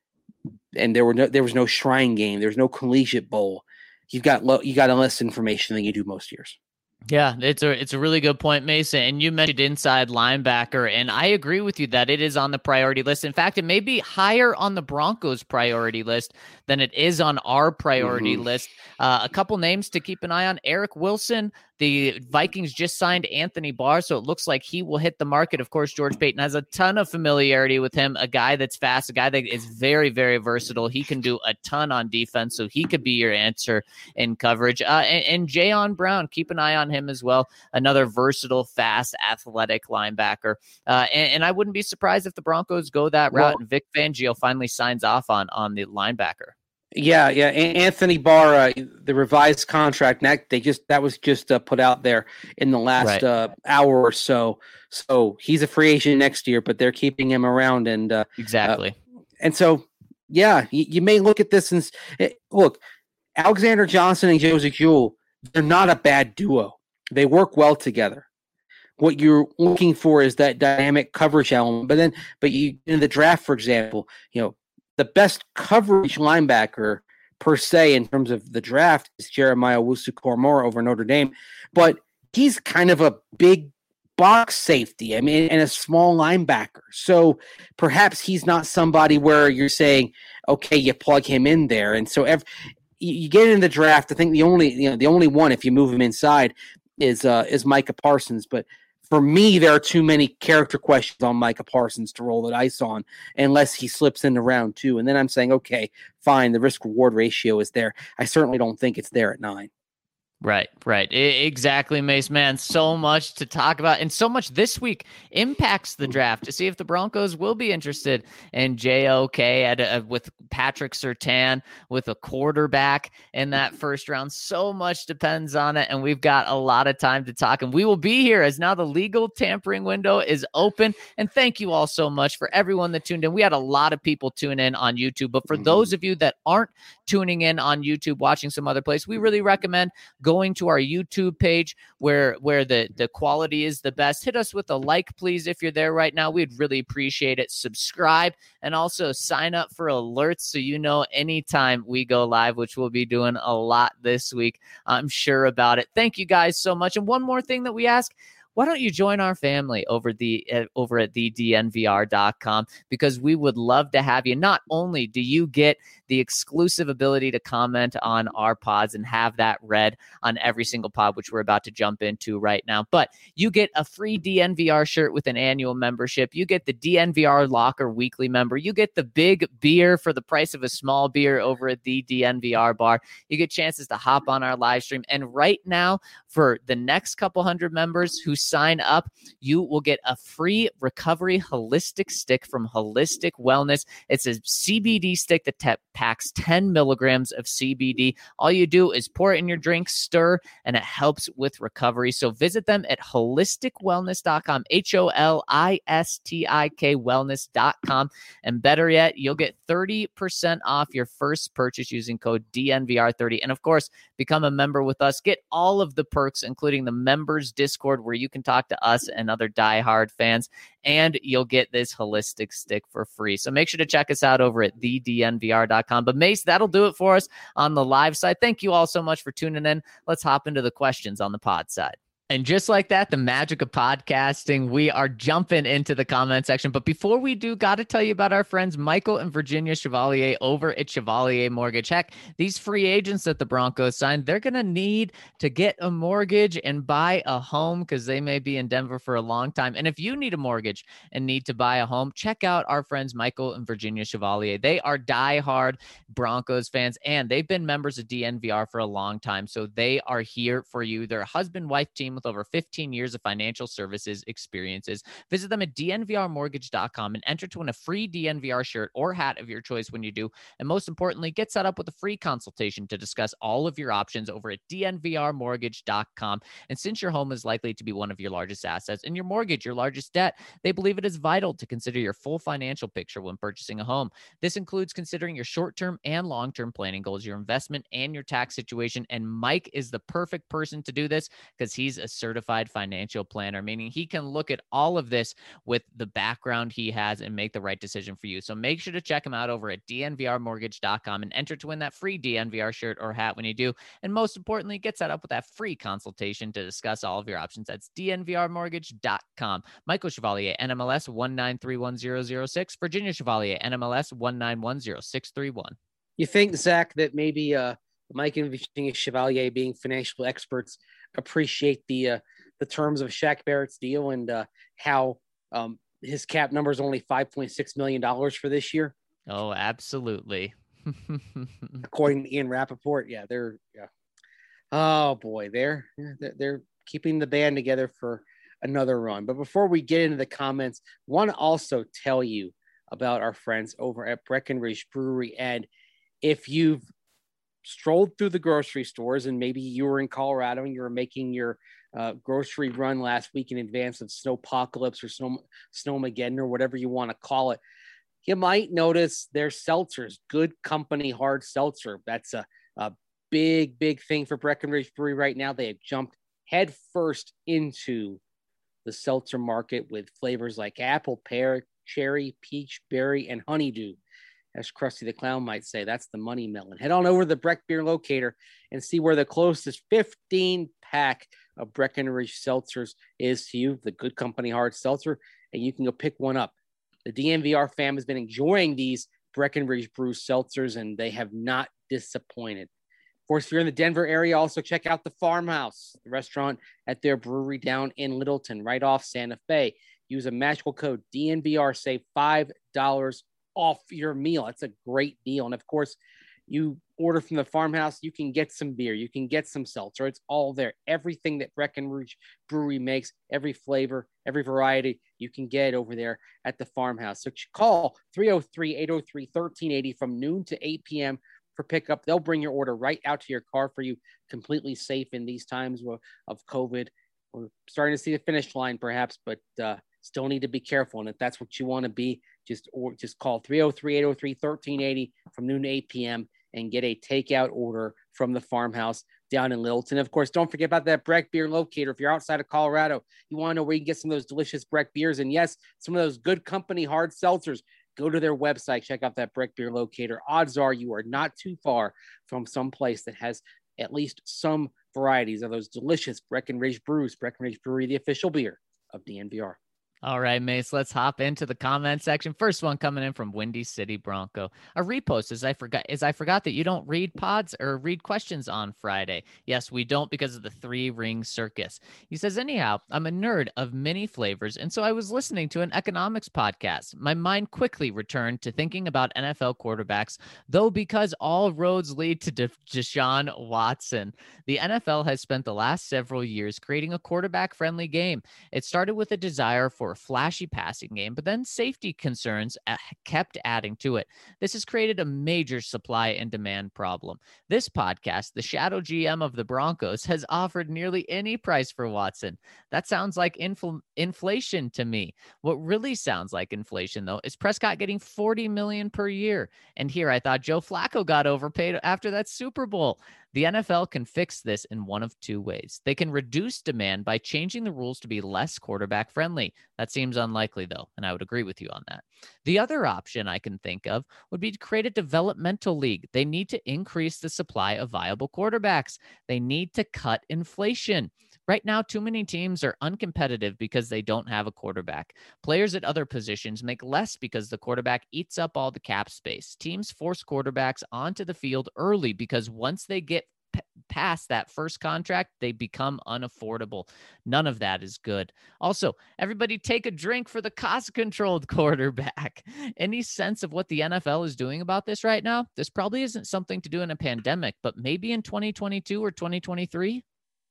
and there were no there was no Shrine Game, there was no Collegiate Bowl. You've got lo- you got less information than you do most years. Yeah, it's a it's a really good point, Mason. And you mentioned inside linebacker, and I agree with you that it is on the priority list. In fact, it may be higher on the Broncos' priority list than it is on our priority mm-hmm. list. Uh, a couple names to keep an eye on: Eric Wilson. The Vikings just signed Anthony Barr, so it looks like he will hit the market. Of course, George Paton has a ton of familiarity with him, a guy that's fast, a guy that is very, very versatile. He can do a ton on defense, so he could be your answer in coverage. Uh, and, and Jayon Brown, keep an eye on him as well. Another versatile, fast, athletic linebacker. Uh, and, and I wouldn't be surprised if the Broncos go that route well, and Vic Fangio finally signs off on, on the linebacker. Yeah, yeah. Anthony Barr, uh, the revised contract, that they just that was just uh, put out there in the last right. uh, hour or so. So he's a free agent next year, but they're keeping him around, and uh, exactly. Uh, and so, yeah, you, you may look at this and it, look, Alexander Johnson and Joseph Jewell, they're not a bad duo. They work well together. What you're looking for is that dynamic coverage element. But then, but you in the draft, for example, you know. The best coverage linebacker per se in terms of the draft is Jeremiah Owusu-Koramoah over Notre Dame, but he's kind of a big box safety. I mean, and a small linebacker. So perhaps he's not somebody where you're saying, okay, you plug him in there. And so every, you get in the draft. I think the only, you know, the only one, if you move him inside, is uh, is Micah Parsons. But for me, there are too many character questions on Micah Parsons to roll the dice on unless he slips into round two. And then I'm saying, okay, fine, the risk-reward ratio is there. I certainly don't think it's there at nine. Right, right. I- exactly, Mace, man. So much to talk about, and so much this week impacts the draft to see if the Broncos will be interested in J O K at a, with Patrick Surtain, with a quarterback in that first round. So much depends on it, and we've got a lot of time to talk, and we will be here as now the legal tampering window is open. And thank you all so much for everyone that tuned in. We had a lot of people tune in on YouTube, but for mm-hmm. those of you that aren't tuning in on YouTube, watching some other place, we really recommend going to our YouTube page where where the, the quality is the best. Hit us with a like, please, if you're there right now. We'd really appreciate it. Subscribe and also sign up for alerts so you know anytime we go live, which we'll be doing a lot this week. I'm sure about it. Thank you guys so much. And one more thing that we ask, why don't you join our family over the uh, over at the D N V R dot com, because we would love to have you. Not only do you get the exclusive ability to comment on our pods and have that read on every single pod, which we're about to jump into right now, but you get a free D N V R shirt with an annual membership. You get the D N V R Locker weekly member. You get the big beer for the price of a small beer over at the D N V R bar. You get chances to hop on our live stream. And right now, for the next couple hundred members who sign up, you will get a free recovery holistic stick from Holistic Wellness. It's a C B D stick that te- packs ten milligrams of C B D. All you do is pour it in your drink, stir, and it helps with recovery. So visit them at holistic wellness dot com, H O L I S T I K wellness dot com. And better yet, you'll get thirty percent off your first purchase using code D N V R thirty. And of course, become a member with us. Get all of the perks, including the members Discord, where you can talk to us and other diehard fans, and you'll get this holistic stick for free. So make sure to check us out over at the D N V R dot com. But Mace, that'll do it for us on the live side. Thank you all so much for tuning in. Let's hop into the questions on the pod side. And just like that, the magic of podcasting, we are jumping into the comment section. But before we do, got to tell you about our friends Michael and Virginia Chevalier over at Chevalier Mortgage. Heck, these free agents that the Broncos signed, they're going to need to get a mortgage and buy a home because they may be in Denver for a long time. And if you need a mortgage and need to buy a home, check out our friends Michael and Virginia Chevalier. They are diehard Broncos fans, and they've been members of D N V R for a long time. So they are here for you. They're a husband-wife team with over fifteen years of financial services experiences. Visit them at D N V R mortgage dot com and enter to win a free D N V R shirt or hat of your choice when you do. And most importantly, get set up with a free consultation to discuss all of your options over at D N V R mortgage dot com. And since your home is likely to be one of your largest assets and your mortgage your largest debt, they believe it is vital to consider your full financial picture when purchasing a home. This includes considering your short-term and long-term planning goals, your investment, and your tax situation. And Mike is the perfect person to do this because he's a certified financial planner, meaning he can look at all of this with the background he has and make the right decision for you. So make sure to check him out over at D N V R mortgage dot com and enter to win that free D N V R shirt or hat when you do. And most importantly, get set up with that free consultation to discuss all of your options. That's D N V R mortgage dot com. Michael Chevalier, N M L S one nine three one zero zero six. Virginia Chevalier, N M L S one nine one zero six three one. You think, Zach, that maybe uh, Mike and Virginia Chevalier, being financial experts, appreciate the uh, the terms of Shaq Barrett's deal and uh, how um, his cap number is only five point six million dollars for this year? Oh, absolutely. According to Ian Rappaport, yeah, they're yeah. Oh boy, they're they're keeping the band together for another run. But before we get into the comments, I want to also tell you about our friends over at Breckenridge Brewery. And if you've strolled through the grocery stores and maybe you were in Colorado and you were making your uh, grocery run last week in advance of Snowpocalypse or Snow Snowmageddon or whatever you want to call it, you might notice their seltzers, Good Company Hard Seltzer. That's a, a big, big thing for Breckenridge Brewery right now. They have jumped head first into the seltzer market with flavors like apple, pear, cherry, peach, berry, and honeydew. As Krusty the Clown might say, that's the money melon. Head on over to the Breck Beer Locator and see where the closest fifteen pack of Breckenridge seltzers is to you, the Good Company hard seltzer, and you can go pick one up. The D N V R fam has been enjoying these Breckenridge Brew seltzers, and they have not disappointed. Of course, if you're in the Denver area, also check out the Farmhouse, the restaurant at their brewery down in Littleton, right off Santa Fe. Use a magical code D N V R, save five dollars off your meal. That's a great deal. And of course, you order from the Farmhouse, you can get some beer, you can get some seltzer. It's all there. Everything that Breckenridge Brewery makes, every flavor, every variety, you can get over there at the Farmhouse. So call three oh three, eight oh three, one three eight oh from noon to eight p.m. for pickup. They'll bring your order right out to your car for you, completely safe in these times of, of COVID. We're starting to see the finish line perhaps, but uh, still need to be careful. And if that's what you want to be, just or just call three oh three, eight oh three, one three eight oh from noon to eight p.m. and get a takeout order from the Farmhouse down in Littleton. Of course, don't forget about that Breck Beer Locator. If you're outside of Colorado, you want to know where you can get some of those delicious Breck beers. And yes, some of those Good Company hard seltzers. Go to their website, check out that Breck Beer Locator. Odds are you are not too far from some place that has at least some varieties of those delicious Breckenridge brews. Breckenridge Brewery, the official beer of D N V R. All right, Mace, let's hop into the comment section. First one coming in from Windy City Bronco. A repost as I forgot is I forgot that you don't read pods or read questions on Friday. Yes, we don't because of the three ring circus. He says, anyhow, I'm a nerd of many flavors, and so I was listening to an economics podcast. My mind quickly returned to thinking about N F L quarterbacks, though because all roads lead to De- Deshaun Watson. The N F L has spent the last several years creating a quarterback-friendly game. It started with a desire for a flashy passing game, but then safety concerns kept adding to it. This has created a major supply and demand problem. This podcast, the shadow G M of the Broncos, has offered nearly any price for Watson. That sounds like infl- inflation to me. What really sounds like inflation, though, is Prescott getting forty million dollars per year. And here I thought Joe Flacco got overpaid after that Super Bowl. The N F L can fix this in one of two ways. They can reduce demand by changing the rules to be less quarterback friendly. That seems unlikely, though, and I would agree with you on that. The other option I can think of would be to create a developmental league. They need to increase the supply of viable quarterbacks. They need to cut inflation. Right now, too many teams are uncompetitive because they don't have a quarterback. Players at other positions make less because the quarterback eats up all the cap space. Teams force quarterbacks onto the field early because once they get p- past that first contract, they become unaffordable. None of that is good. Also, everybody take a drink for the cost-controlled quarterback. Any sense of what the N F L is doing about this right now? This probably isn't something to do in a pandemic, but maybe in twenty twenty-two or twenty twenty-three?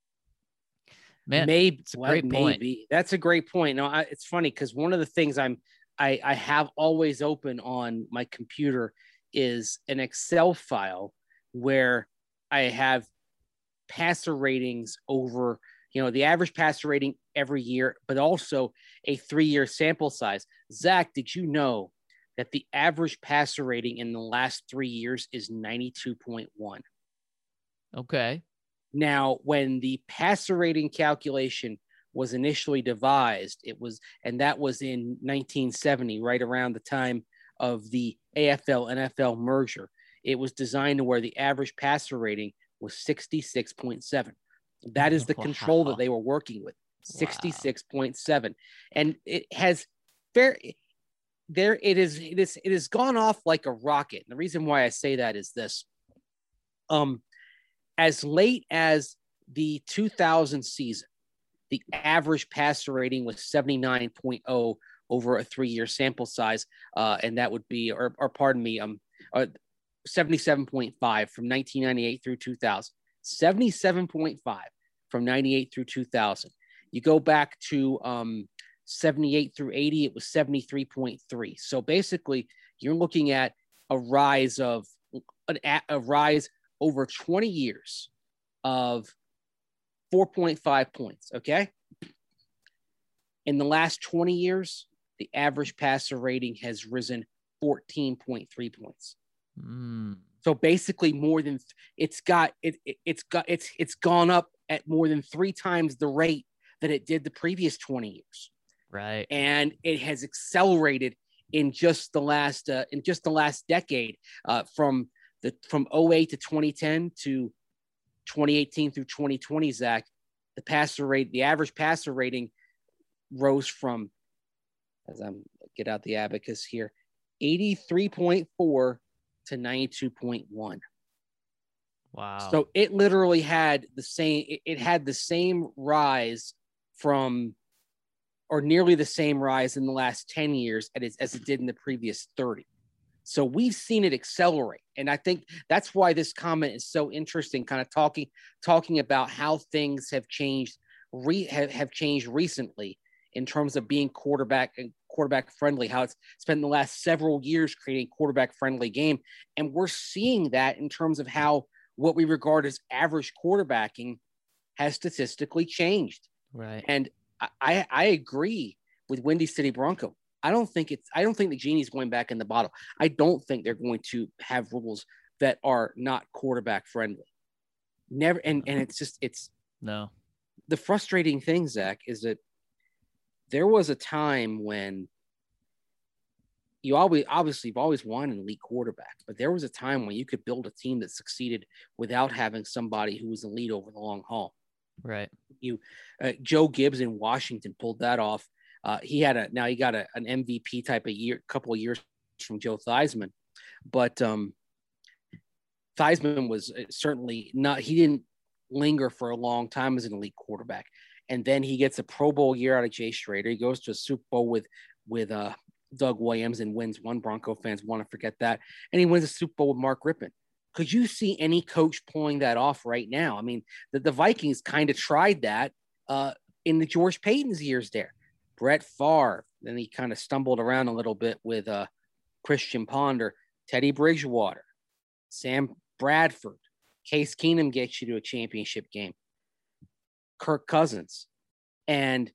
Man, maybe it's a great well, point. Maybe that's a great point. No, I, it's funny because one of the things I'm I, I have always open on my computer is an Excel file where I have passer ratings over, you know, the average passer rating every year, but also a three-year sample size. Zach, did you know that the average passer rating in the last three years is ninety-two point one? Okay. Now, when the passer rating calculation was initially devised, it was, and that was in nineteen seventy, right around the time of the A F L N F L merger. It was designed to where the average passer rating was sixty-six point seven. That is the wow. control that they were working with, sixty-six point seven. Wow. And it has fair there. It is, it is, it has gone off like a rocket. And the reason why I say that is this, um, as late as the two thousand season, the average passer rating was seventy-nine point oh over a three-year sample size, uh, and that would be, or, or pardon me, um, uh, seventy-seven point five from nineteen ninety-eight through two thousand. seventy-seven point five from ninety-eight through two thousand. You go back to um, seventy-eight through eighty, it was seventy-three point three. So basically, you're looking at a rise of an, a rise over twenty years of four point five points, okay? In the last twenty years, the average passer rating has risen fourteen point three points. Mm. So basically more than it's got it, it it's got it's it's gone up at more than three times the rate that it did the previous twenty years. Right. And it has accelerated in just the last uh, in just the last decade, uh, from the from oh eight to twenty ten to twenty eighteen through twenty twenty, Zach. the passer rate, the average passer rating rose from, as I'm get out the abacus here, eighty-three point four to ninety-two point one. Wow. So it literally had the same, it, it had the same rise from, or nearly the same rise in the last ten years as, as it did in the previous thirty. So we've seen it accelerate. And I think that's why this comment is so interesting, kind of talking, talking about how things have changed, re, have, have changed recently in terms of being quarterback and quarterback friendly, how it's spent the last several years creating quarterback friendly game. And we're seeing that in terms of how what we regard as average quarterbacking has statistically changed. Right. And I, I agree with Windy City Bronco. I don't think it's, I don't think the genie's going back in the bottle. I don't think they're going to have rules that are not quarterback friendly. Never. And, and it's just, it's no, the frustrating thing, Zach, is that there was a time when you always, obviously you've always wanted an elite quarterback, but there was a time when you could build a team that succeeded without having somebody who was elite over the long haul. Right. You, uh, Joe Gibbs in Washington pulled that off. Uh, he had a, now he got a, an M V P type of year, couple of years from Joe Theismann, but um, Theismann was certainly not, he didn't linger for a long time as an elite quarterback. And then he gets a Pro Bowl year out of Jay Schrader. He goes to a Super Bowl with, with uh, Doug Williams and wins one. Bronco fans want to forget that. And he wins a Super Bowl with Mark Rippon. Could you see any coach pulling that off right now? I mean, the, the Vikings kind of tried that uh, in the George Payton's years there. Brett Favre, then he kind of stumbled around a little bit with uh, Christian Ponder, Teddy Bridgewater, Sam Bradford, Case Keenum gets you to a championship game, Kirk Cousins. And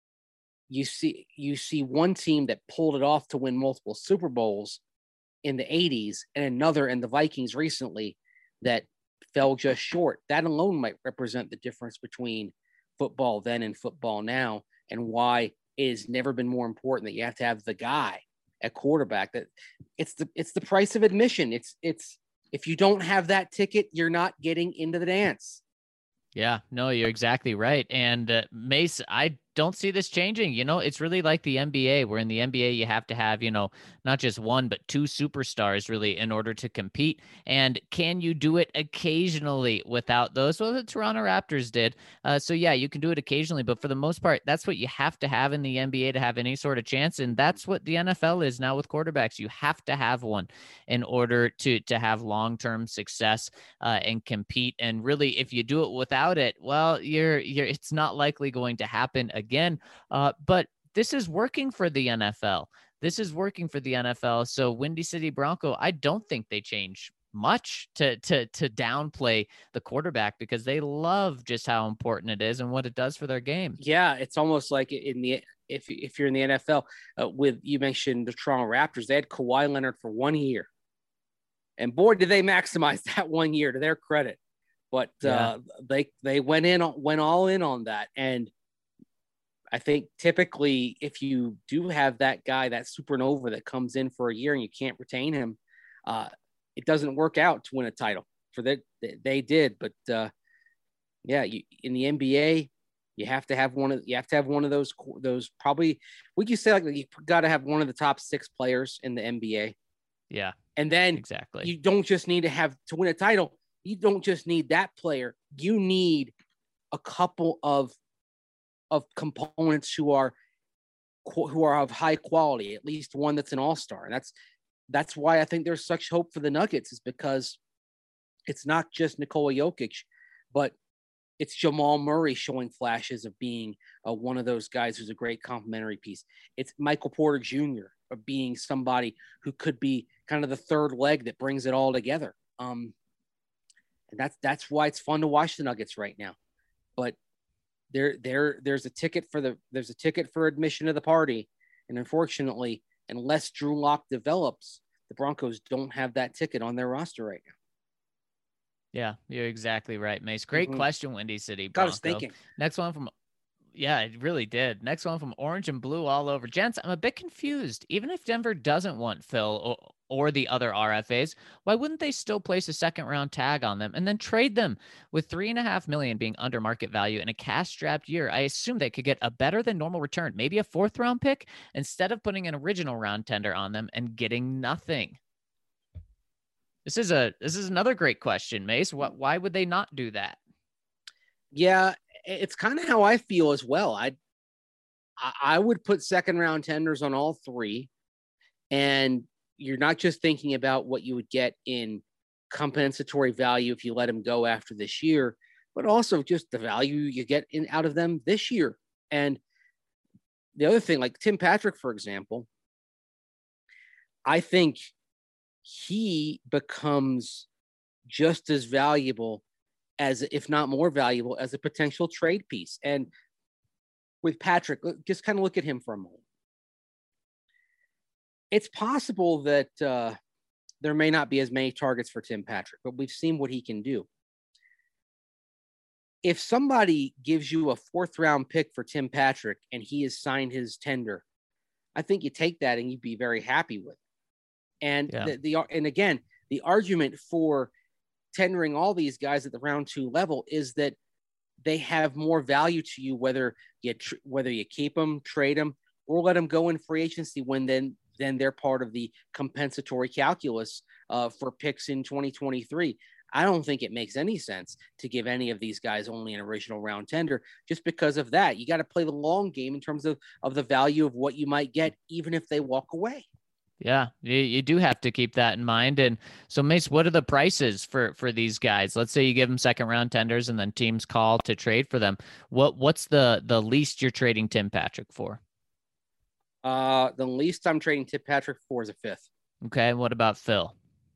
you see, you see one team that pulled it off to win multiple Super Bowls in the eighties and another in the Vikings recently that fell just short. That alone might represent the difference between football then and football now, and why it has never been more important that you have to have the guy at quarterback. That it's the it's the price of admission. It's it's if you don't have that ticket, you're not getting into the dance. Yeah, no, you're exactly right. And uh, Mace, I don't see this changing. You know, it's really like the N B A, where in the N B A you have to have, you know, not just one, but two superstars really in order to compete. And can you do it occasionally without those? Well, the Toronto Raptors did. Uh, so yeah, you can do it occasionally, but for the most part, that's what you have to have in the N B A to have any sort of chance. And that's what the N F L is now with quarterbacks. You have to have one in order to, to have long-term success uh, and compete. And really, if you do it without it, well, you're, you're, it's not likely going to happen again. Uh, but this is working for the N F L. This is working for the N F L. So Windy City Bronco, I don't think they change much to to to downplay the quarterback, because they love just how important it is and what it does for their game. Yeah, it's almost like in the if if you're in the N F L uh, with, you mentioned the Toronto Raptors, they had Kawhi Leonard for one year, and boy, did they maximize that one year to their credit. But yeah. uh, they they went in went all in on that. And I think typically if you do have that guy, that supernova that comes in for a year and you can't retain him, uh, it doesn't work out to win a title. For that, they did. But uh, yeah, you, in the N B A, you have to have one of you have to have one of those those probably, would you say, like, you got to have one of the top six players in the N B A? Yeah, and then exactly. You don't just need to have to win a title. You don't just need that player. You need a couple of of components who are who are of high quality, at least one that's an all-star. And that's that's why I think there's such hope for the Nuggets, is because it's not just Nikola Jokic, but it's Jamal Murray showing flashes of being uh, one of those guys who's a great complementary piece. It's Michael Porter Junior of being somebody who could be kind of the third leg that brings it all together. Um, and that's that's why it's fun to watch the Nuggets right now. But there there there's a ticket for the there's a ticket for admission to the party, and unfortunately, unless Drew Lock develops, the Broncos don't have that ticket on their roster right now. Yeah, you're exactly right, Mace. Great mm-hmm. question, Windy City Bronco. Got us thinking. Next one from, yeah, it really did. Next one from Orange and Blue all over. Gents, I'm a bit confused. Even if Denver doesn't want Phil, or, or the other R F As, why wouldn't they still place a second round tag on them and then trade them? With three and a half million being under market value in a cash strapped year, I assume they could get a better than normal return, maybe a fourth round pick, instead of putting an original round tender on them and getting nothing. This is a this is another great question, Mace. What why would they not do that? Yeah, it's kind of how I feel as well. I I would put second round tenders on all three, and you're not just thinking about what you would get in compensatory value if you let them go after this year, but also just the value you get in out of them this year. And the other thing, like Tim Patrick, for example, I think he becomes just as valuable as, if not more valuable, as a potential trade piece. And with Patrick, just kind of look at him for a moment. It's possible that uh, there may not be as many targets for Tim Patrick, but we've seen what he can do. If somebody gives you a fourth round pick for Tim Patrick and he has signed his tender, I think you take that and you'd be very happy with it. And yeah. the, the and again, the argument for tendering all these guys at the round two level is that they have more value to you, whether you tr- whether you keep them, trade them, or let them go in free agency when then then they're part of the compensatory calculus uh, for picks in twenty twenty-three. I don't think it makes any sense to give any of these guys only an original round tender just because of that. You got to play the long game in terms of, of the value of what you might get, even if they walk away. Yeah, you, you do have to keep that in mind. And so, Mace, what are the prices for, for these guys? Let's say you give them second round tenders and then teams call to trade for them. What What's the, the least you're trading Tim Patrick for? Uh, the least I'm trading Tim Patrick for is a fifth. Okay, what about Phil?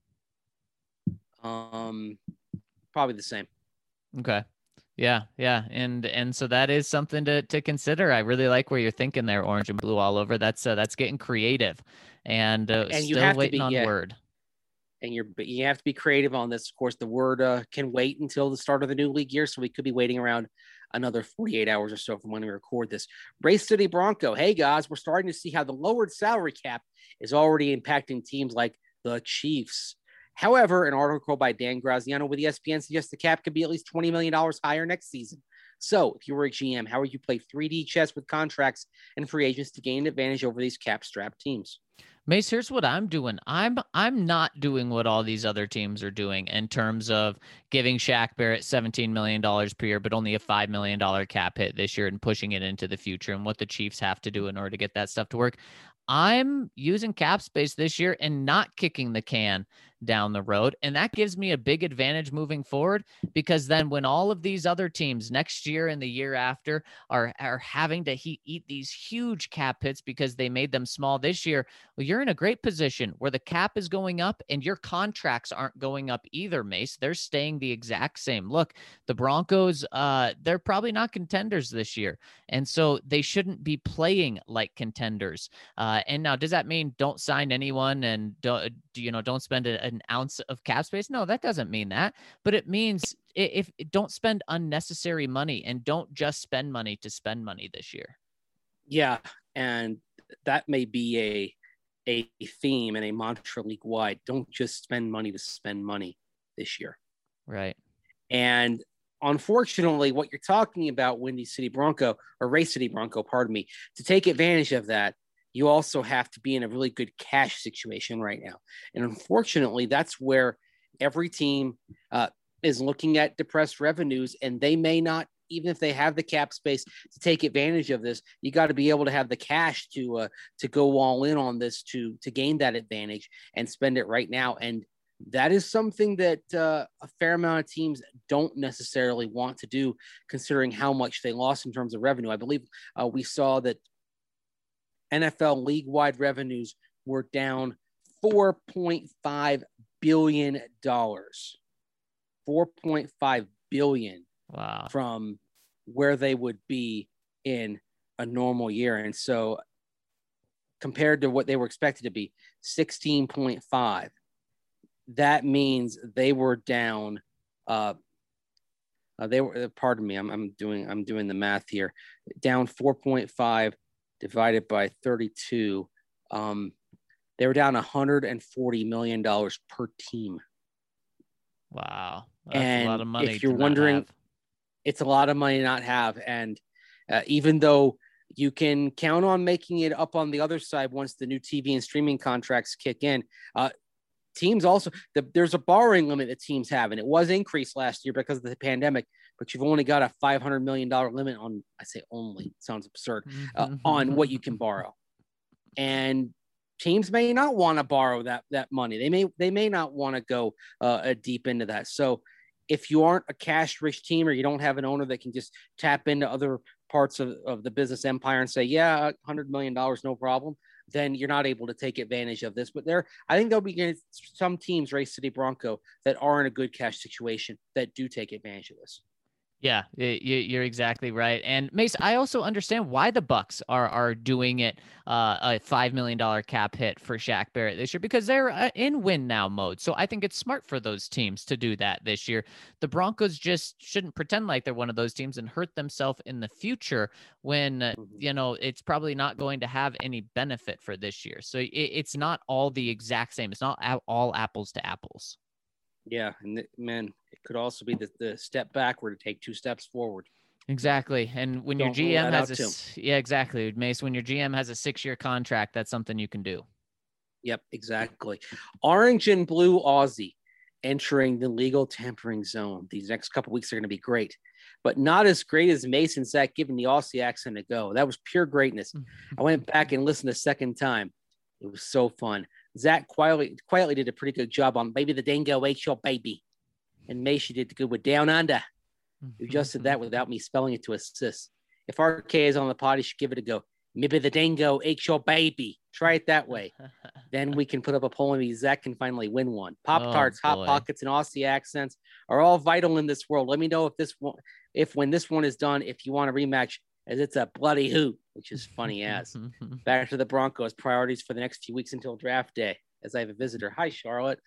Um, probably the same. Okay. Yeah, yeah. And and so that is something to to consider. I really like where you're thinking there, orange and blue all over. That's uh, that's getting creative. And, uh, and still you have waiting to be, on yeah. word. And you're you have to be creative on this. Of course, the word uh, can wait until the start of the new league year, so we could be waiting around another forty-eight hours or so from when we record this. Race City Bronco. Hey, guys, we're starting to see how the lowered salary cap is already impacting teams like the Chiefs. However, an article by Dan Graziano with E S P N suggests the cap could be at least twenty million dollars higher next season. So if you were a G M, how would you play three D chess with contracts and free agents to gain an advantage over these cap-strapped teams? Mace, here's what I'm doing. I'm I'm not doing what all these other teams are doing in terms of giving Shaq Barrett seventeen million dollars per year, but only a five million dollars cap hit this year and pushing it into the future and what the Chiefs have to do in order to get that stuff to work. I'm using cap space this year and not kicking the can down the road. And that gives me a big advantage moving forward, because then when all of these other teams next year and the year after are, are having to he- eat these huge cap hits because they made them small this year, well, you're in a great position where the cap is going up and your contracts aren't going up either, Mace. They're staying the exact same. Look, the Broncos, uh, they're probably not contenders this year. And so they shouldn't be playing like contenders. Uh, and now, does that mean don't sign anyone and don't, you know, don't spend a, an ounce of cap space? No, that doesn't mean that. But it means if, if don't spend unnecessary money and don't just spend money to spend money this year. Yeah, and that may be a a theme and a mantra league wide. Don't just spend money to spend money this year. Right. And unfortunately, what you're talking about, Windy City Bronco or Race City Bronco, pardon me, to take advantage of that, you also have to be in a really good cash situation right now. And unfortunately, that's where every team uh, is looking at depressed revenues, and they may not, even if they have the cap space to take advantage of this, you got to be able to have the cash to uh, to go all in on this to to gain that advantage and spend it right now. And that is something that uh, a fair amount of teams don't necessarily want to do, considering how much they lost in terms of revenue. I believe uh, we saw that N F L league-wide revenues were down four point five billion dollars. four point five billion dollars. Wow. From where they would be in a normal year. And so compared to what they were expected to be, sixteen point five, that means they were down. Uh, uh, they were, pardon me, I'm, I'm doing, I'm doing the math here, down four point five divided by thirty-two. Um, They were down one hundred forty million dollars per team. Wow. That's and a lot of money if you're to wondering, not have. it's a lot of money to not have. And uh, even though you can count on making it up on the other side once the new T V and streaming contracts kick in, uh, teams also, the, there's a borrowing limit that teams have, and it was increased last year because of the pandemic, but you've only got a five hundred million dollars limit on, I say only, sounds absurd, uh, on what you can borrow. And teams may not want to borrow that, that money. They may, they may not want to go uh, deep into that. So if you aren't a cash rich team, or you don't have an owner that can just tap into other parts of, of the business empire and say, yeah, one hundred million dollars, no problem, then you're not able to take advantage of this. But there, I think there'll be some teams, Race City Bronco, that are in a good cash situation that do take advantage of this. Yeah, you're exactly right. And Mace, I also understand why the Bucks are are doing it uh, a five million dollars cap hit for Shaq Barrett this year, because they're uh, in win now mode. So I think it's smart for those teams to do that this year. The Broncos just shouldn't pretend like they're one of those teams and hurt themselves in the future when, uh, you know, it's probably not going to have any benefit for this year. So it, it's not all the exact same. It's not all apples to apples. Yeah, and the, man, it could also be the, the step backward to take two steps forward. Exactly. And when Don't your G M has a too. yeah, exactly, Mace, when your G M has a six-year contract, that's something you can do. Yep, exactly. Orange and blue Aussie entering the legal tampering zone. These next couple weeks are going to be great, but not as great as Mason Zach giving the Aussie accent a go. That was pure greatness. I went back and listened a second time. It was so fun. Zach quietly quietly did a pretty good job on Baby the Dingo Ate Your Baby. And Macy did good with Down Under. You just did that without me spelling it to assist. If R K is on the pod, you should give it a go. Maybe the Dingo Ate Your Baby. Try it that way. Then we can put up a poll and maybe Zach can finally win one. Pop-Tarts, oh, Hot Pockets, and Aussie accents are all vital in this world. Let me know if this one, if when this one is done, if you want a rematch, as it's a bloody hoot, which is funny as. Back to the Broncos. Priorities for the next few weeks until draft day, as I have a visitor. Hi, Charlotte.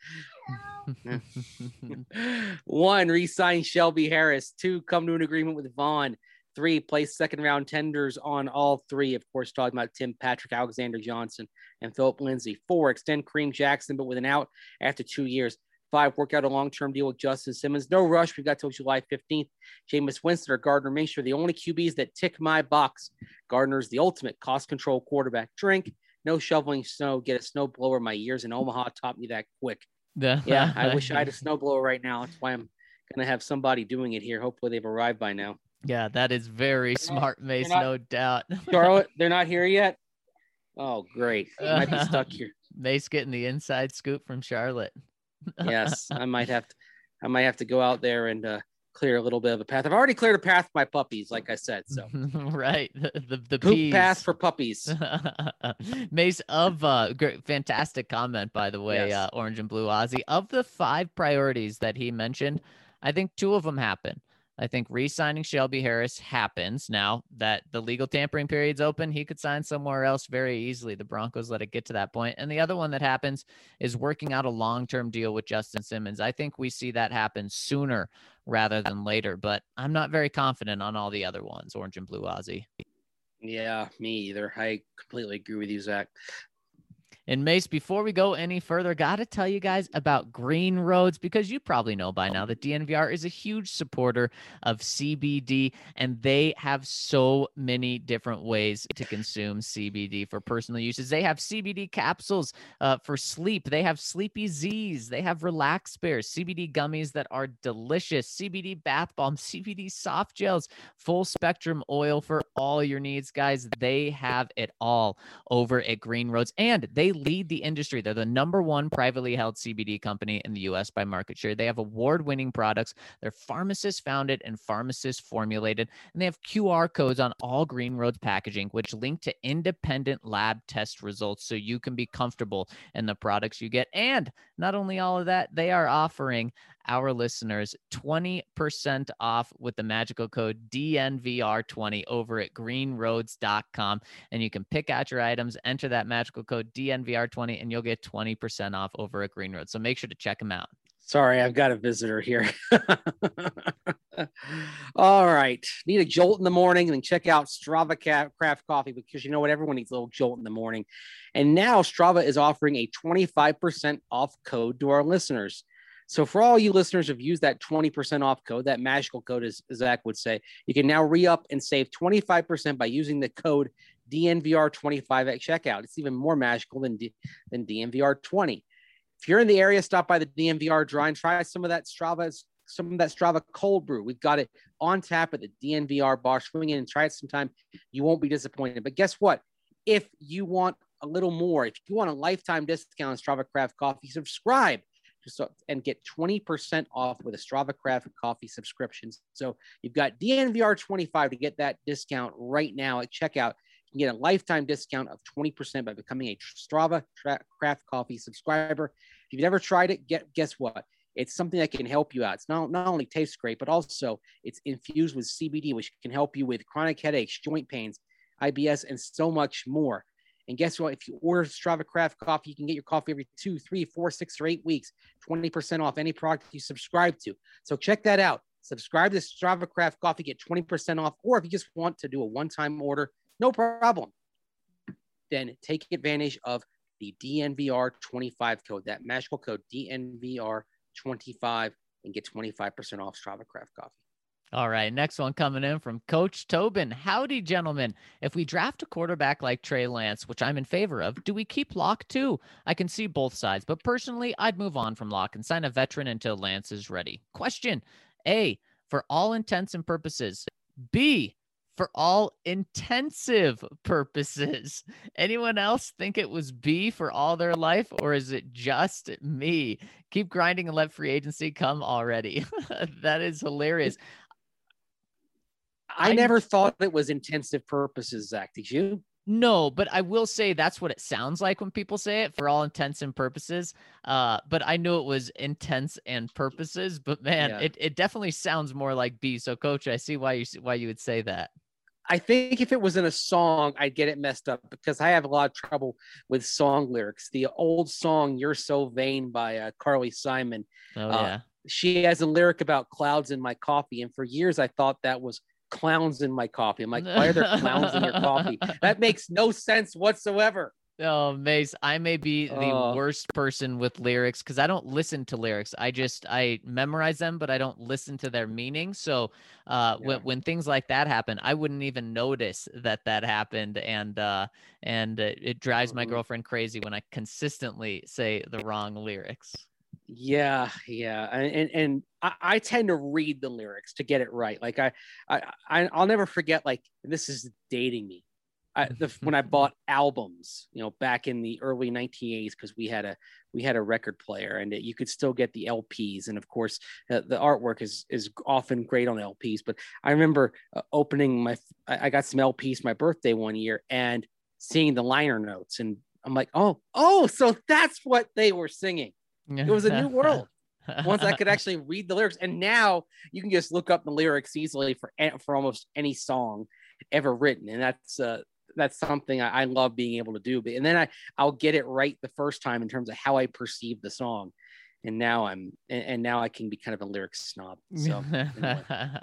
One, re-sign Shelby Harris. Two, come to an agreement with Vaughn. Three, place second-round tenders on all three. Of course, talking about Tim Patrick, Alexander Johnson, and Philip Lindsay. Four, extend Kareem Jackson, but with an out after two years. Five, work out a long-term deal with Justin Simmons. No rush. We've got till July fifteenth. Jameis Winston or Gardner Minshew, the only Q Bs that tick my box. Gardner's the ultimate cost control quarterback. Drink. No shoveling snow. Get a snow blower. My years in Omaha taught me that quick. Yeah, I wish I had a snow blower right now. That's why I'm going to have somebody doing it here. Hopefully they've arrived by now. Yeah, that is very they're smart, not, Mace, not, no doubt. Charlotte, they're not here yet? Oh, great. They might be stuck here. Mace getting the inside scoop from Charlotte. Yes, I might have to. I might have to go out there and uh, clear a little bit of a path. I've already cleared a path for my puppies, like I said. So right, the the, the poop peas. path for puppies. Mace, of uh, great, fantastic comment by the way, yes. uh, Orange and Blue Aussie. Of the five priorities that he mentioned, I think two of them happen. I think re-signing Shelby Harris happens. Now that the legal tampering period's open, he could sign somewhere else very easily. The Broncos let it get to that point. And the other one that happens is working out a long-term deal with Justin Simmons. I think we see that happen sooner rather than later, but I'm not very confident on all the other ones, Orange and Blue Aussie. Yeah, me either. I completely agree with you, Zach. And Mace, before we go any further, got to tell you guys about Green Roads, because you probably know by now that D N V R is a huge supporter of C B D, and they have so many different ways to consume C B D for personal uses. They have C B D capsules uh, for sleep. They have Sleepy Z's. They have Relax Bears, C B D gummies that are delicious, C B D bath bombs, C B D soft gels, full spectrum oil for all your needs, guys. They have it all over at Green Roads, and they lead the industry. They're the number one privately held C B D company in the U S by market share. They have award-winning products. They're pharmacist founded and pharmacist formulated, and they have Q R codes on all Green Roads packaging, which link to independent lab test results so you can be comfortable in the products you get. And not only all of that, they are offering our listeners twenty percent off with the magical code D N V R twenty over at green roads dot com. And you can pick out your items, enter that magical code D N V R twenty, and you'll get twenty percent off over at Green Roads. So make sure to check them out. Sorry, I've got a visitor here. All right. Need a jolt in the morning, and then check out Strava Craft Coffee, because you know what? Everyone needs a little jolt in the morning. And now Strava is offering a twenty-five percent off code to our listeners. So for all you listeners who've used that twenty percent off code, that magical code, as Zach would say, you can now re-up and save twenty-five percent by using the code D N V R twenty-five at checkout. It's even more magical than, D- than D N V R twenty. If you're in the area, stop by the D N V R Dry and try some of that Strava, some of that Strava cold brew. We've got it on tap at the D N V R bar. Swing in and try it sometime. You won't be disappointed. But guess what? If you want a little more, if you want a lifetime discount on Strava Craft Coffee, subscribe so, and get twenty percent off with a Strava Craft Coffee subscription. So you've got D N V R twenty-five to get that discount right now at checkout. You can get a lifetime discount of twenty percent by becoming a Strava Craft Coffee subscriber. If you've never tried it, get, guess what? It's something that can help you out. It's not, not only tastes great, but also it's infused with C B D, which can help you with chronic headaches, joint pains, I B S, and so much more. And guess what? If you order Strava Craft Coffee, you can get your coffee every two, three, four, six, or eight weeks, twenty percent off any product you subscribe to. So check that out. Subscribe to Strava Craft Coffee, get twenty percent off. Or if you just want to do a one-time order, no problem. Then take advantage of the D N V R twenty-five code, that magical code D N V R twenty-five, and get twenty-five percent off Strava Craft Coffee. All right, next one coming in from Coach Tobin. Howdy, gentlemen. If we draft a quarterback like Trey Lance, which I'm in favor of, do we keep Locke too? I can see both sides, but personally, I'd move on from Locke and sign a veteran until Lance is ready. Question: A, for all intents and purposes. B, for all intensive purposes. Anyone else think it was B for all their life, or is it just me? Keep grinding and let free agency come already. That is hilarious. I, I never thought it was intensive purposes, Zach. Did you? No, but I will say that's what it sounds like when people say it, for all intents and purposes. Uh, but I knew it was intense and purposes. But man, yeah. it, it definitely sounds more like B. So, Coach, I see why you why you would say that. I think if it was in a song, I'd get it messed up, because I have a lot of trouble with song lyrics. The old song "You're So Vain" by uh, Carly Simon. Oh uh, yeah. She has a lyric about clouds in my coffee, and for years I thought that was clowns in my coffee. I'm like, why are there clowns in your coffee? That makes no sense whatsoever. Oh, Mace, I may be the uh, worst person with lyrics because I don't listen to lyrics. I just, I memorize them, but I don't listen to their meaning. So uh, yeah. when, when things like that happen, I wouldn't even notice that that happened. And, uh, and uh, it drives my girlfriend crazy when I consistently say the wrong lyrics. Yeah, yeah, and and I, I tend to read the lyrics to get it right. Like I, I, I'll never forget. Like, this is dating me. I, the, when I bought albums, you know, back in the early nineteen eighties, because we had a we had a record player, and it, you could still get the L Ps, and of course, uh, the artwork is is often great on L Ps. But I remember uh, opening my, I, I got some L Ps for my birthday one year, and seeing the liner notes, and I'm like, oh, oh, so that's what they were singing. It was a new world once I could actually read the lyrics. And now you can just look up the lyrics easily for for almost any song ever written. And that's uh, that's something I, I love being able to do. But and then I I'll get it right the first time in terms of how I perceive the song. And now I'm and, and now I can be kind of a lyrics snob. So anyway.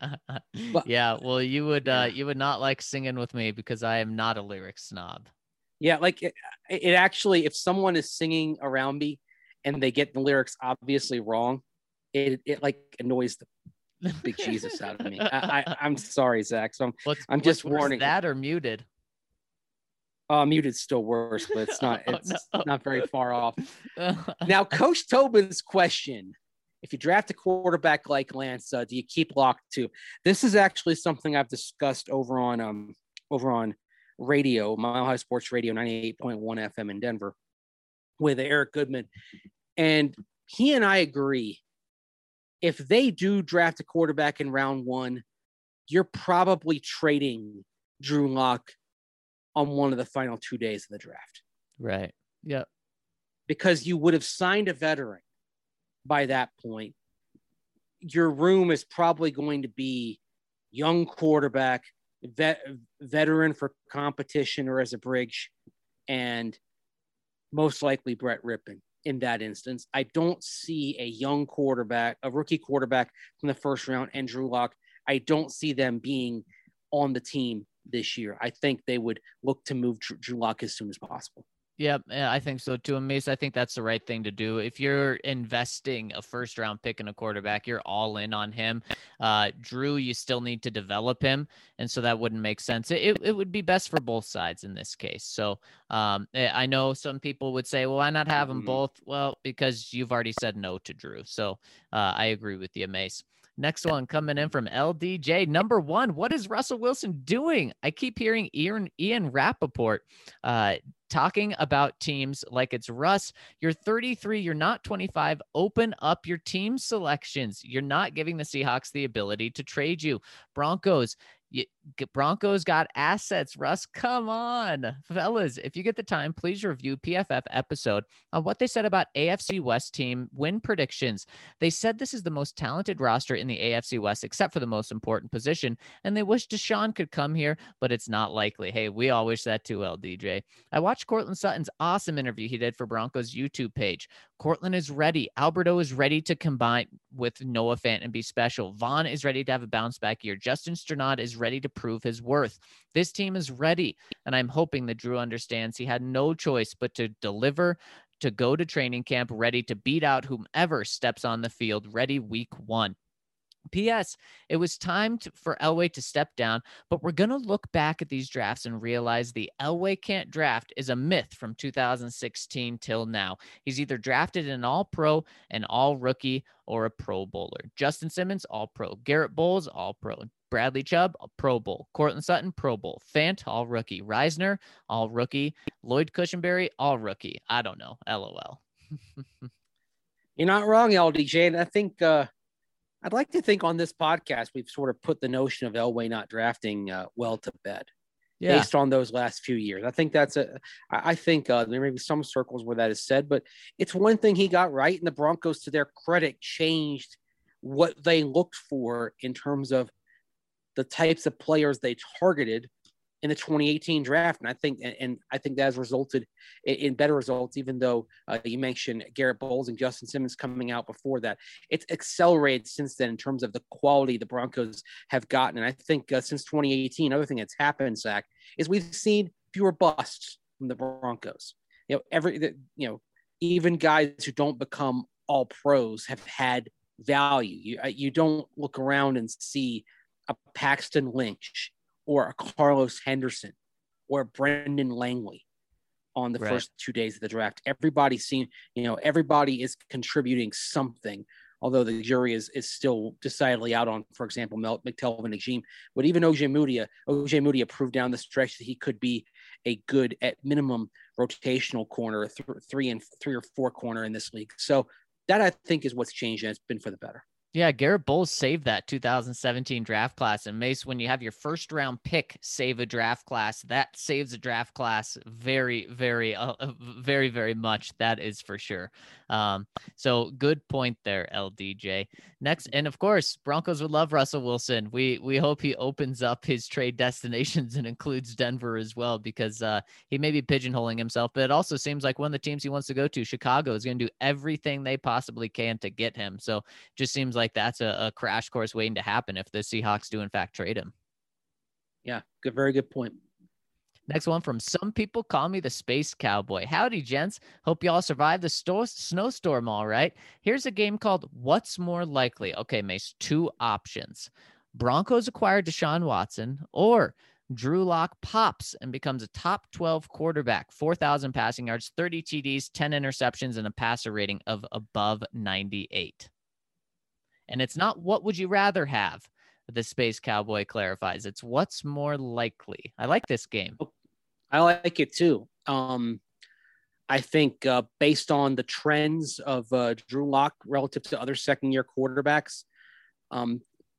But, yeah, well, you would yeah. uh, you would not like singing with me because I am not a lyrics snob. Yeah, like it, it actually, if someone is singing around me and they get the lyrics obviously wrong, it it like annoys the big Jesus out of me. I, I I'm sorry, Zach. So I'm what's, I'm just what's warning. That or muted. Uh, muted's still worse, but it's not. It's oh, no. not very far off. Now, Coach Tobin's question: if you draft a quarterback like Lance, uh, do you keep Locke too? This is actually something I've discussed over on um over on radio, Mile High Sports Radio, ninety-eight point one F M in Denver, with Eric Goodman. And he and I agree, if they do draft a quarterback in round one, you're probably trading Drew Lock on one of the final two days of the draft. Right. Yep. Because you would have signed a veteran by that point. Your room is probably going to be young quarterback, vet, veteran for competition or as a bridge, and most likely Brett Rippon. In that instance, I don't see a young quarterback, a rookie quarterback from the first round, and Drew Lock I don't see them being on the team this year. I think they would look to move Drew, Drew Lock as soon as possible. Yeah, I think so too. And Mace, I think that's the right thing to do. If you're investing a first round pick in a quarterback, you're all in on him. Uh, Drew, you still need to develop him. And so that wouldn't make sense. It, it would be best for both sides in this case. So um, I know some people would say, well, why not have them both? Well, because you've already said no to Drew. So uh, I agree with you, Mace. Next one coming in from L D J. Number one, what is Russell Wilson doing? I keep hearing Ian, Ian Rappaport uh, talking about teams like it's Russ. You're thirty-three. You're not twenty-five. Open up your team selections. You're not giving the Seahawks the ability to trade you. Broncos. You, Broncos got assets. Russ, come on. Fellas, if you get the time, please review P F F episode on what they said about A F C West team win predictions. They said this is the most talented roster in the A F C West, except for the most important position, and they wish Deshaun could come here, but it's not likely. Hey, we all wish that too, L D J. I watched Cortland Sutton's awesome interview he did for Broncos YouTube page. Cortland is ready. Alberto is ready to combine with Noah Fant and be special. Vaughn is ready to have a bounce back year. Justin Strnad is ready to prove his worth. This team is ready, and I'm hoping that Drew understands he had no choice but to deliver, to go to training camp ready to beat out whomever steps on the field, ready week one. P S. It was time to, for Elway to step down, but we're going to look back at these drafts and realize the Elway can't draft is a myth from two thousand sixteen till now. He's either drafted an all-pro, an all-rookie, or a pro bowler. Justin Simmons, all-pro. Garrett Bowles, all-pro. Bradley Chubb, a Pro Bowl. Cortland Sutton, Pro Bowl. Fant, all rookie. Reisner, all rookie. Lloyd Cushenberry, all rookie. I don't know. LOL. You're not wrong, L D J. And I think uh, I'd like to think on this podcast, we've sort of put the notion of Elway not drafting uh, well to bed. Yeah. Based on those last few years. I think that's a, I think uh, there may be some circles where that is said, but it's one thing he got right. And the Broncos, to their credit, changed what they looked for in terms of the types of players they targeted in the twenty eighteen draft. And I think, and, and I think that has resulted in, in better results, even though uh, you mentioned Garrett Bowles and Justin Simmons coming out before that. It's accelerated since then in terms of the quality the Broncos have gotten. And I think uh, since twenty eighteen, another thing that's happened, Zach, is we've seen fewer busts from the Broncos. You know, every, the, you know, even guys who don't become all pros have had value. You, you don't look around and see a Paxton Lynch or a Carlos Henderson or a Brendan Langley on the right. first two days of the draft. Everybody's seen, you know, everybody is contributing something, although the jury is is still decidedly out on, for example, Mel, McTelvin Najim. But even Ojemudia, Ojemudia proved down the stretch that he could be a good, at minimum, rotational corner, th- three and three or four corner in this league. So that, I think, is what's changed, and it's been for the better. Yeah, Garrett Bowles saved that two thousand seventeen draft class. And Mace, when you have your first round pick save a draft class, that saves a draft class very, very, uh, very, very much. That is for sure. Um, so good point there, L D J. Next, and of course, Broncos would love Russell Wilson. We we hope he opens up his trade destinations and includes Denver as well, because uh, he may be pigeonholing himself, but it also seems like one of the teams he wants to go to, Chicago, is going to do everything they possibly can to get him. So just seems like that's a, a crash course waiting to happen if the Seahawks do in fact trade him. Yeah, good, very good point. Next one from Some People Call Me the Space Cowboy. Howdy, gents. Hope y'all survived the sto- snowstorm all right. Here's a game called What's More Likely. Okay, Mace, two options. Broncos acquire Deshaun Watson, or Drew Lock pops and becomes a top twelve quarterback, four thousand passing yards, thirty T Ds, ten interceptions, and a passer rating of above ninety-eight. And it's not what would you rather have, the Space Cowboy clarifies. It's what's more likely. I like this game. I like it too. Um, I think uh, based on the trends of uh, Drew Lock relative to other second-year quarterbacks, um,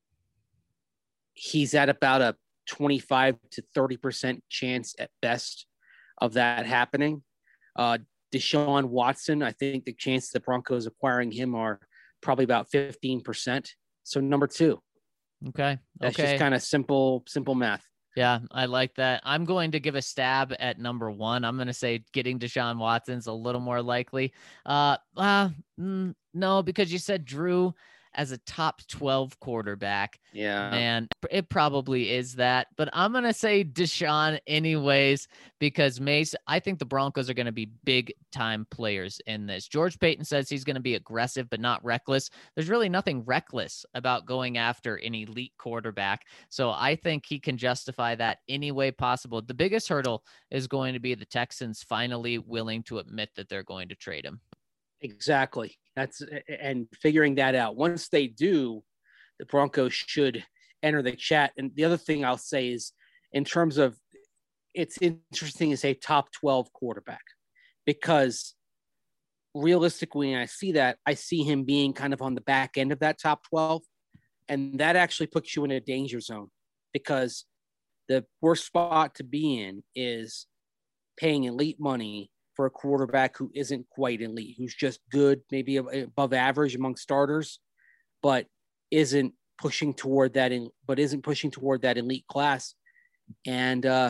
he's at about a twenty-five to thirty percent chance at best of that happening. Uh, Deshaun Watson, I think the chances the Broncos acquiring him are probably about fifteen percent. So number two. Okay. That's okay. just kind of simple, simple math. Yeah, I like that. I'm going to give a stab at number one. I'm going to say getting Deshaun Watson's a little more likely. Uh, uh mm, no, because you said Drew. as a top twelve quarterback. Yeah. Man, it probably is that. But I'm going to say Deshaun anyways, because Mace, I think the Broncos are going to be big time players in this. George Payton says he's going to be aggressive, but not reckless. There's really nothing reckless about going after an elite quarterback. So I think he can justify that any way possible. The biggest hurdle is going to be the Texans finally willing to admit that they're going to trade him. Exactly. That's and figuring that out. Once they do, the Broncos should enter the chat. And the other thing I'll say is, in terms of, it's interesting to say top twelve quarterback, because realistically, when I see that, I see him being kind of on the back end of that top twelve. And that actually puts you in a danger zone, because the worst spot to be in is paying elite money for a quarterback who isn't quite elite, who's just good, maybe above average among starters, but isn't pushing toward that, in, but isn't pushing toward that elite class. And, uh,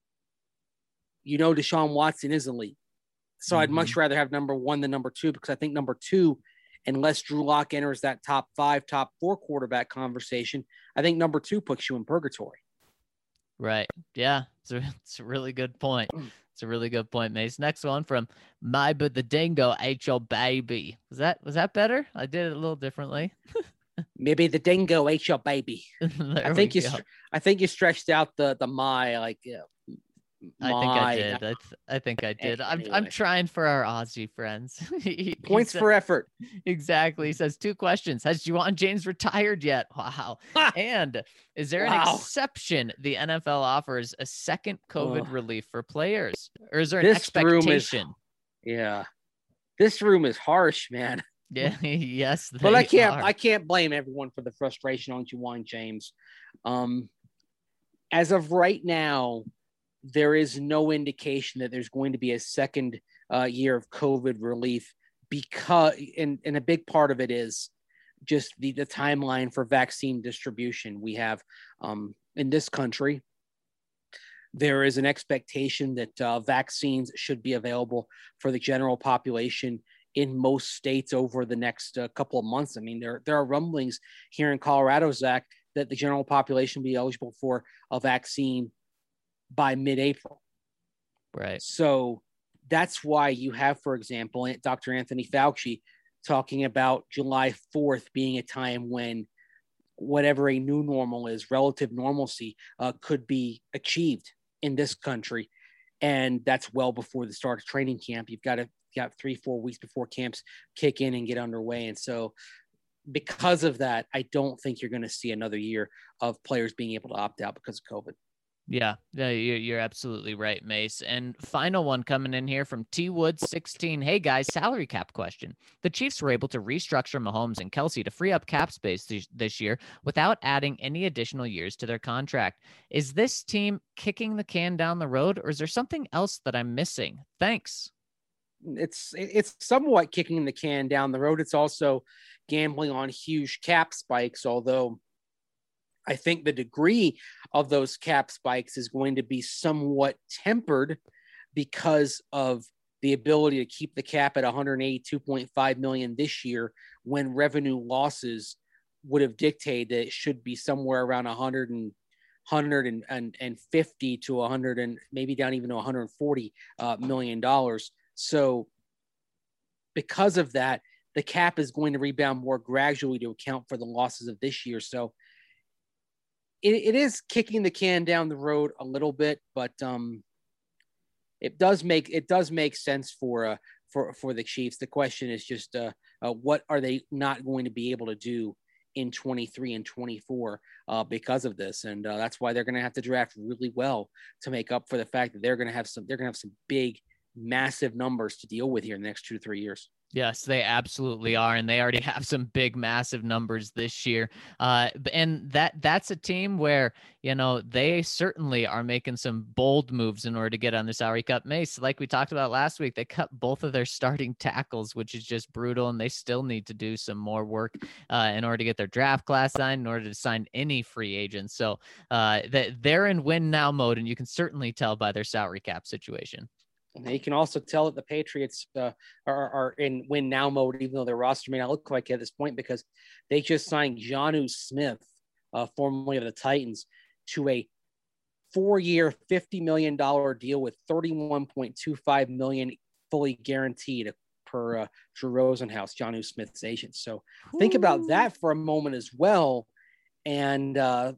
you know, Deshaun Watson is elite. So mm-hmm. I'd much rather have number one than number two, because I think number two, unless Drew Lock enters that top five, top four quarterback conversation, I think number two puts you in purgatory. Right. Yeah. It's a, it's a really good point. It's a really good point, Mace. Next one from My But the Dingo ate your baby. Was that was that better? I did it a little differently. Maybe the dingo ate your baby. I think you. Go. I think you stretched out the the my like. Yeah. I think I did. I, th- I think I did. I'm I'm trying for our Aussie friends. he, Points he said, for effort. Exactly. He says two questions. Has Juwan James retired yet? Wow. And is there wow. an exception the N F L offers a second COVID oh. relief for players? Or is there an this expectation? Room is, yeah. This room is harsh, man. Yeah, yes. But I can't are. I can't blame everyone for the frustration on Juwan James. Um as of right now, there is no indication that there's going to be a second uh, year of COVID relief, because, and, and a big part of it is just the, the timeline for vaccine distribution. We have um, in this country, there is an expectation that uh, vaccines should be available for the general population in most states over the next uh, couple of months. I mean, there, there are rumblings here in Colorado, Zach, that the general population will be eligible for a vaccine by mid-April. Right. So that's why you have, for example, Doctor Anthony Fauci talking about July fourth being a time when whatever a new normal is, relative normalcy, uh, could be achieved in this country. And that's well before the start of training camp. You've got to got three, four weeks before camps kick in and get underway. And so because of that, I don't think you're going to see another year of players being able to opt out because of COVID. Yeah, yeah, you're absolutely right, Mace. And final one coming in here from T Wood sixteen. Hey guys, salary cap question. The Chiefs were able to restructure Mahomes and Kelsey to free up cap space th- this year without adding any additional years to their contract. Is this team kicking the can down the road, or is there something else that I'm missing? Thanks. It's it's somewhat kicking the can down the road. It's also gambling on huge cap spikes, although I think the degree of those cap spikes is going to be somewhat tempered because of the ability to keep the cap at one hundred eighty-two point five million dollars this year, when revenue losses would have dictated that it should be somewhere around one hundred and one hundred fifty to one hundred and maybe down even to one hundred forty uh, million dollars. So because of that, the cap is going to rebound more gradually to account for the losses of this year. So It, it is kicking the can down the road a little bit, but um, it does make it does make sense for uh, for for the Chiefs. The question is just uh, uh, what are they not going to be able to do in twenty-three and twenty-four uh, because of this, and uh, that's why they're going to have to draft really well to make up for the fact that they're going to have some they're going to have some big, massive numbers to deal with here in the next two to three years. Yes, they absolutely are, and they already have some big, massive numbers this year. Uh, and that that's a team where, you know, they certainly are making some bold moves in order to get on the salary cap. Mace, like we talked about last week, they cut both of their starting tackles, which is just brutal, and they still need to do some more work uh, in order to get their draft class signed, in order to sign any free agents. So uh, they're in win now mode, and you can certainly tell by their salary cap situation. You can also tell that the Patriots uh, are, are in win now mode, even though their roster may not look like it at this point, because they just signed Jonnu Smith, uh, formerly of the Titans, to a four-year, fifty million dollars deal with thirty-one point two five million dollars fully guaranteed per uh, Drew Rosenhaus, Jonnu Smith's agent. So Ooh. Think about that for a moment as well, and uh,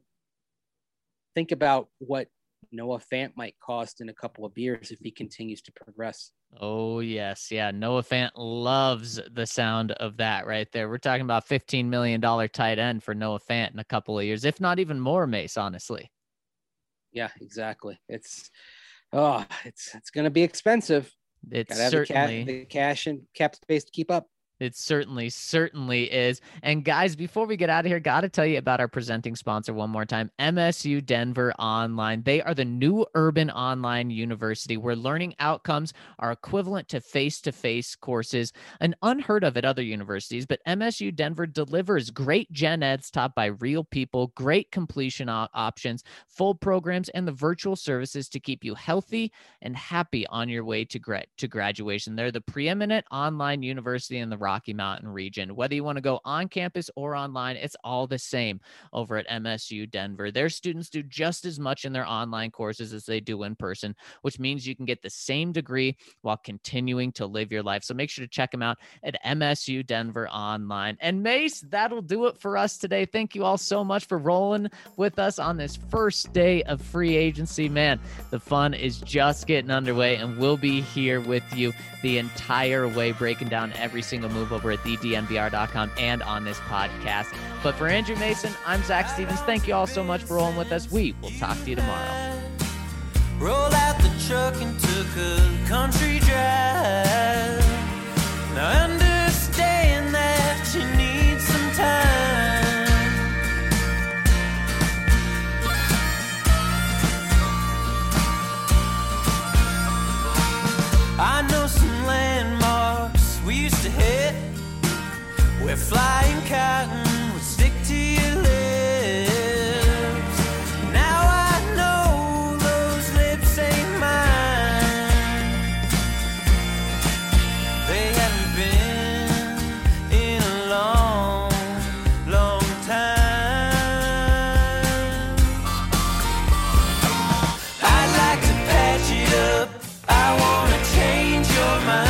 think about what Noah Fant might cost in a couple of years if he continues to progress. Oh, yes. Yeah. Noah Fant loves the sound of that right there. We're talking about fifteen million dollars tight end for Noah Fant in a couple of years, if not even more, Mace, honestly. Yeah, exactly. It's, oh, it's, it's going to be expensive. It's Gotta have certainly the, ca- the cash and cap space to keep up. It certainly, certainly is. And guys, before we get out of here, got to tell you about our presenting sponsor one more time, M S U Denver Online. They are the new urban online university where learning outcomes are equivalent to face-to-face courses, and unheard of at other universities. But M S U Denver delivers great gen eds taught by real people, great completion op- options, full programs, and the virtual services to keep you healthy and happy on your way to, gra- to graduation. They're the preeminent online university in the Rocky Mountain region. Whether you want to go on campus or online, it's all the same over at M S U Denver. Their students do just as much in their online courses as they do in person, which means you can get the same degree while continuing to live your life. So make sure to check them out at M S U Denver Online. And Mace, that'll do it for us today. Thank you all so much for rolling with us on this first day of free agency. Man, the fun is just getting underway, and we'll be here with you the entire way, breaking down every single move over at the D N V R dot com and on this podcast. But for Andrew Mason, I'm Zach Stevens. Thank you all so much for rolling with us. We will talk to you tomorrow. Roll out the truck and took a country drive. Now understand that you need some time. I know some landmarks we used to hit, where flying cotton would stick to your lips. Now I know those lips ain't mine. They haven't been in a long, long time. I'd like to patch it up. I wanna change your mind.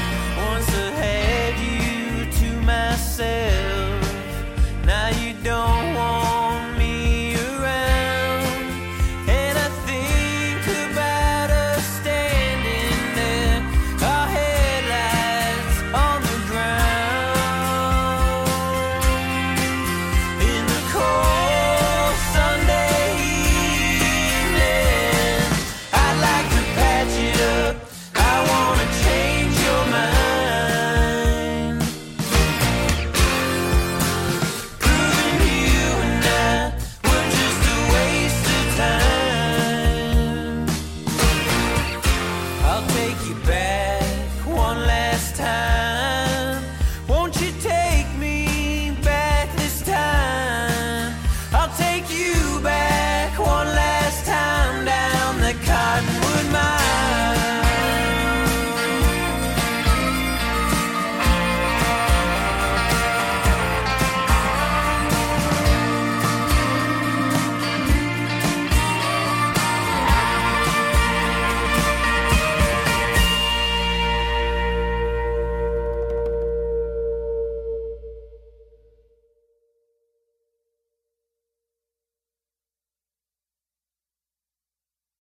Now you don't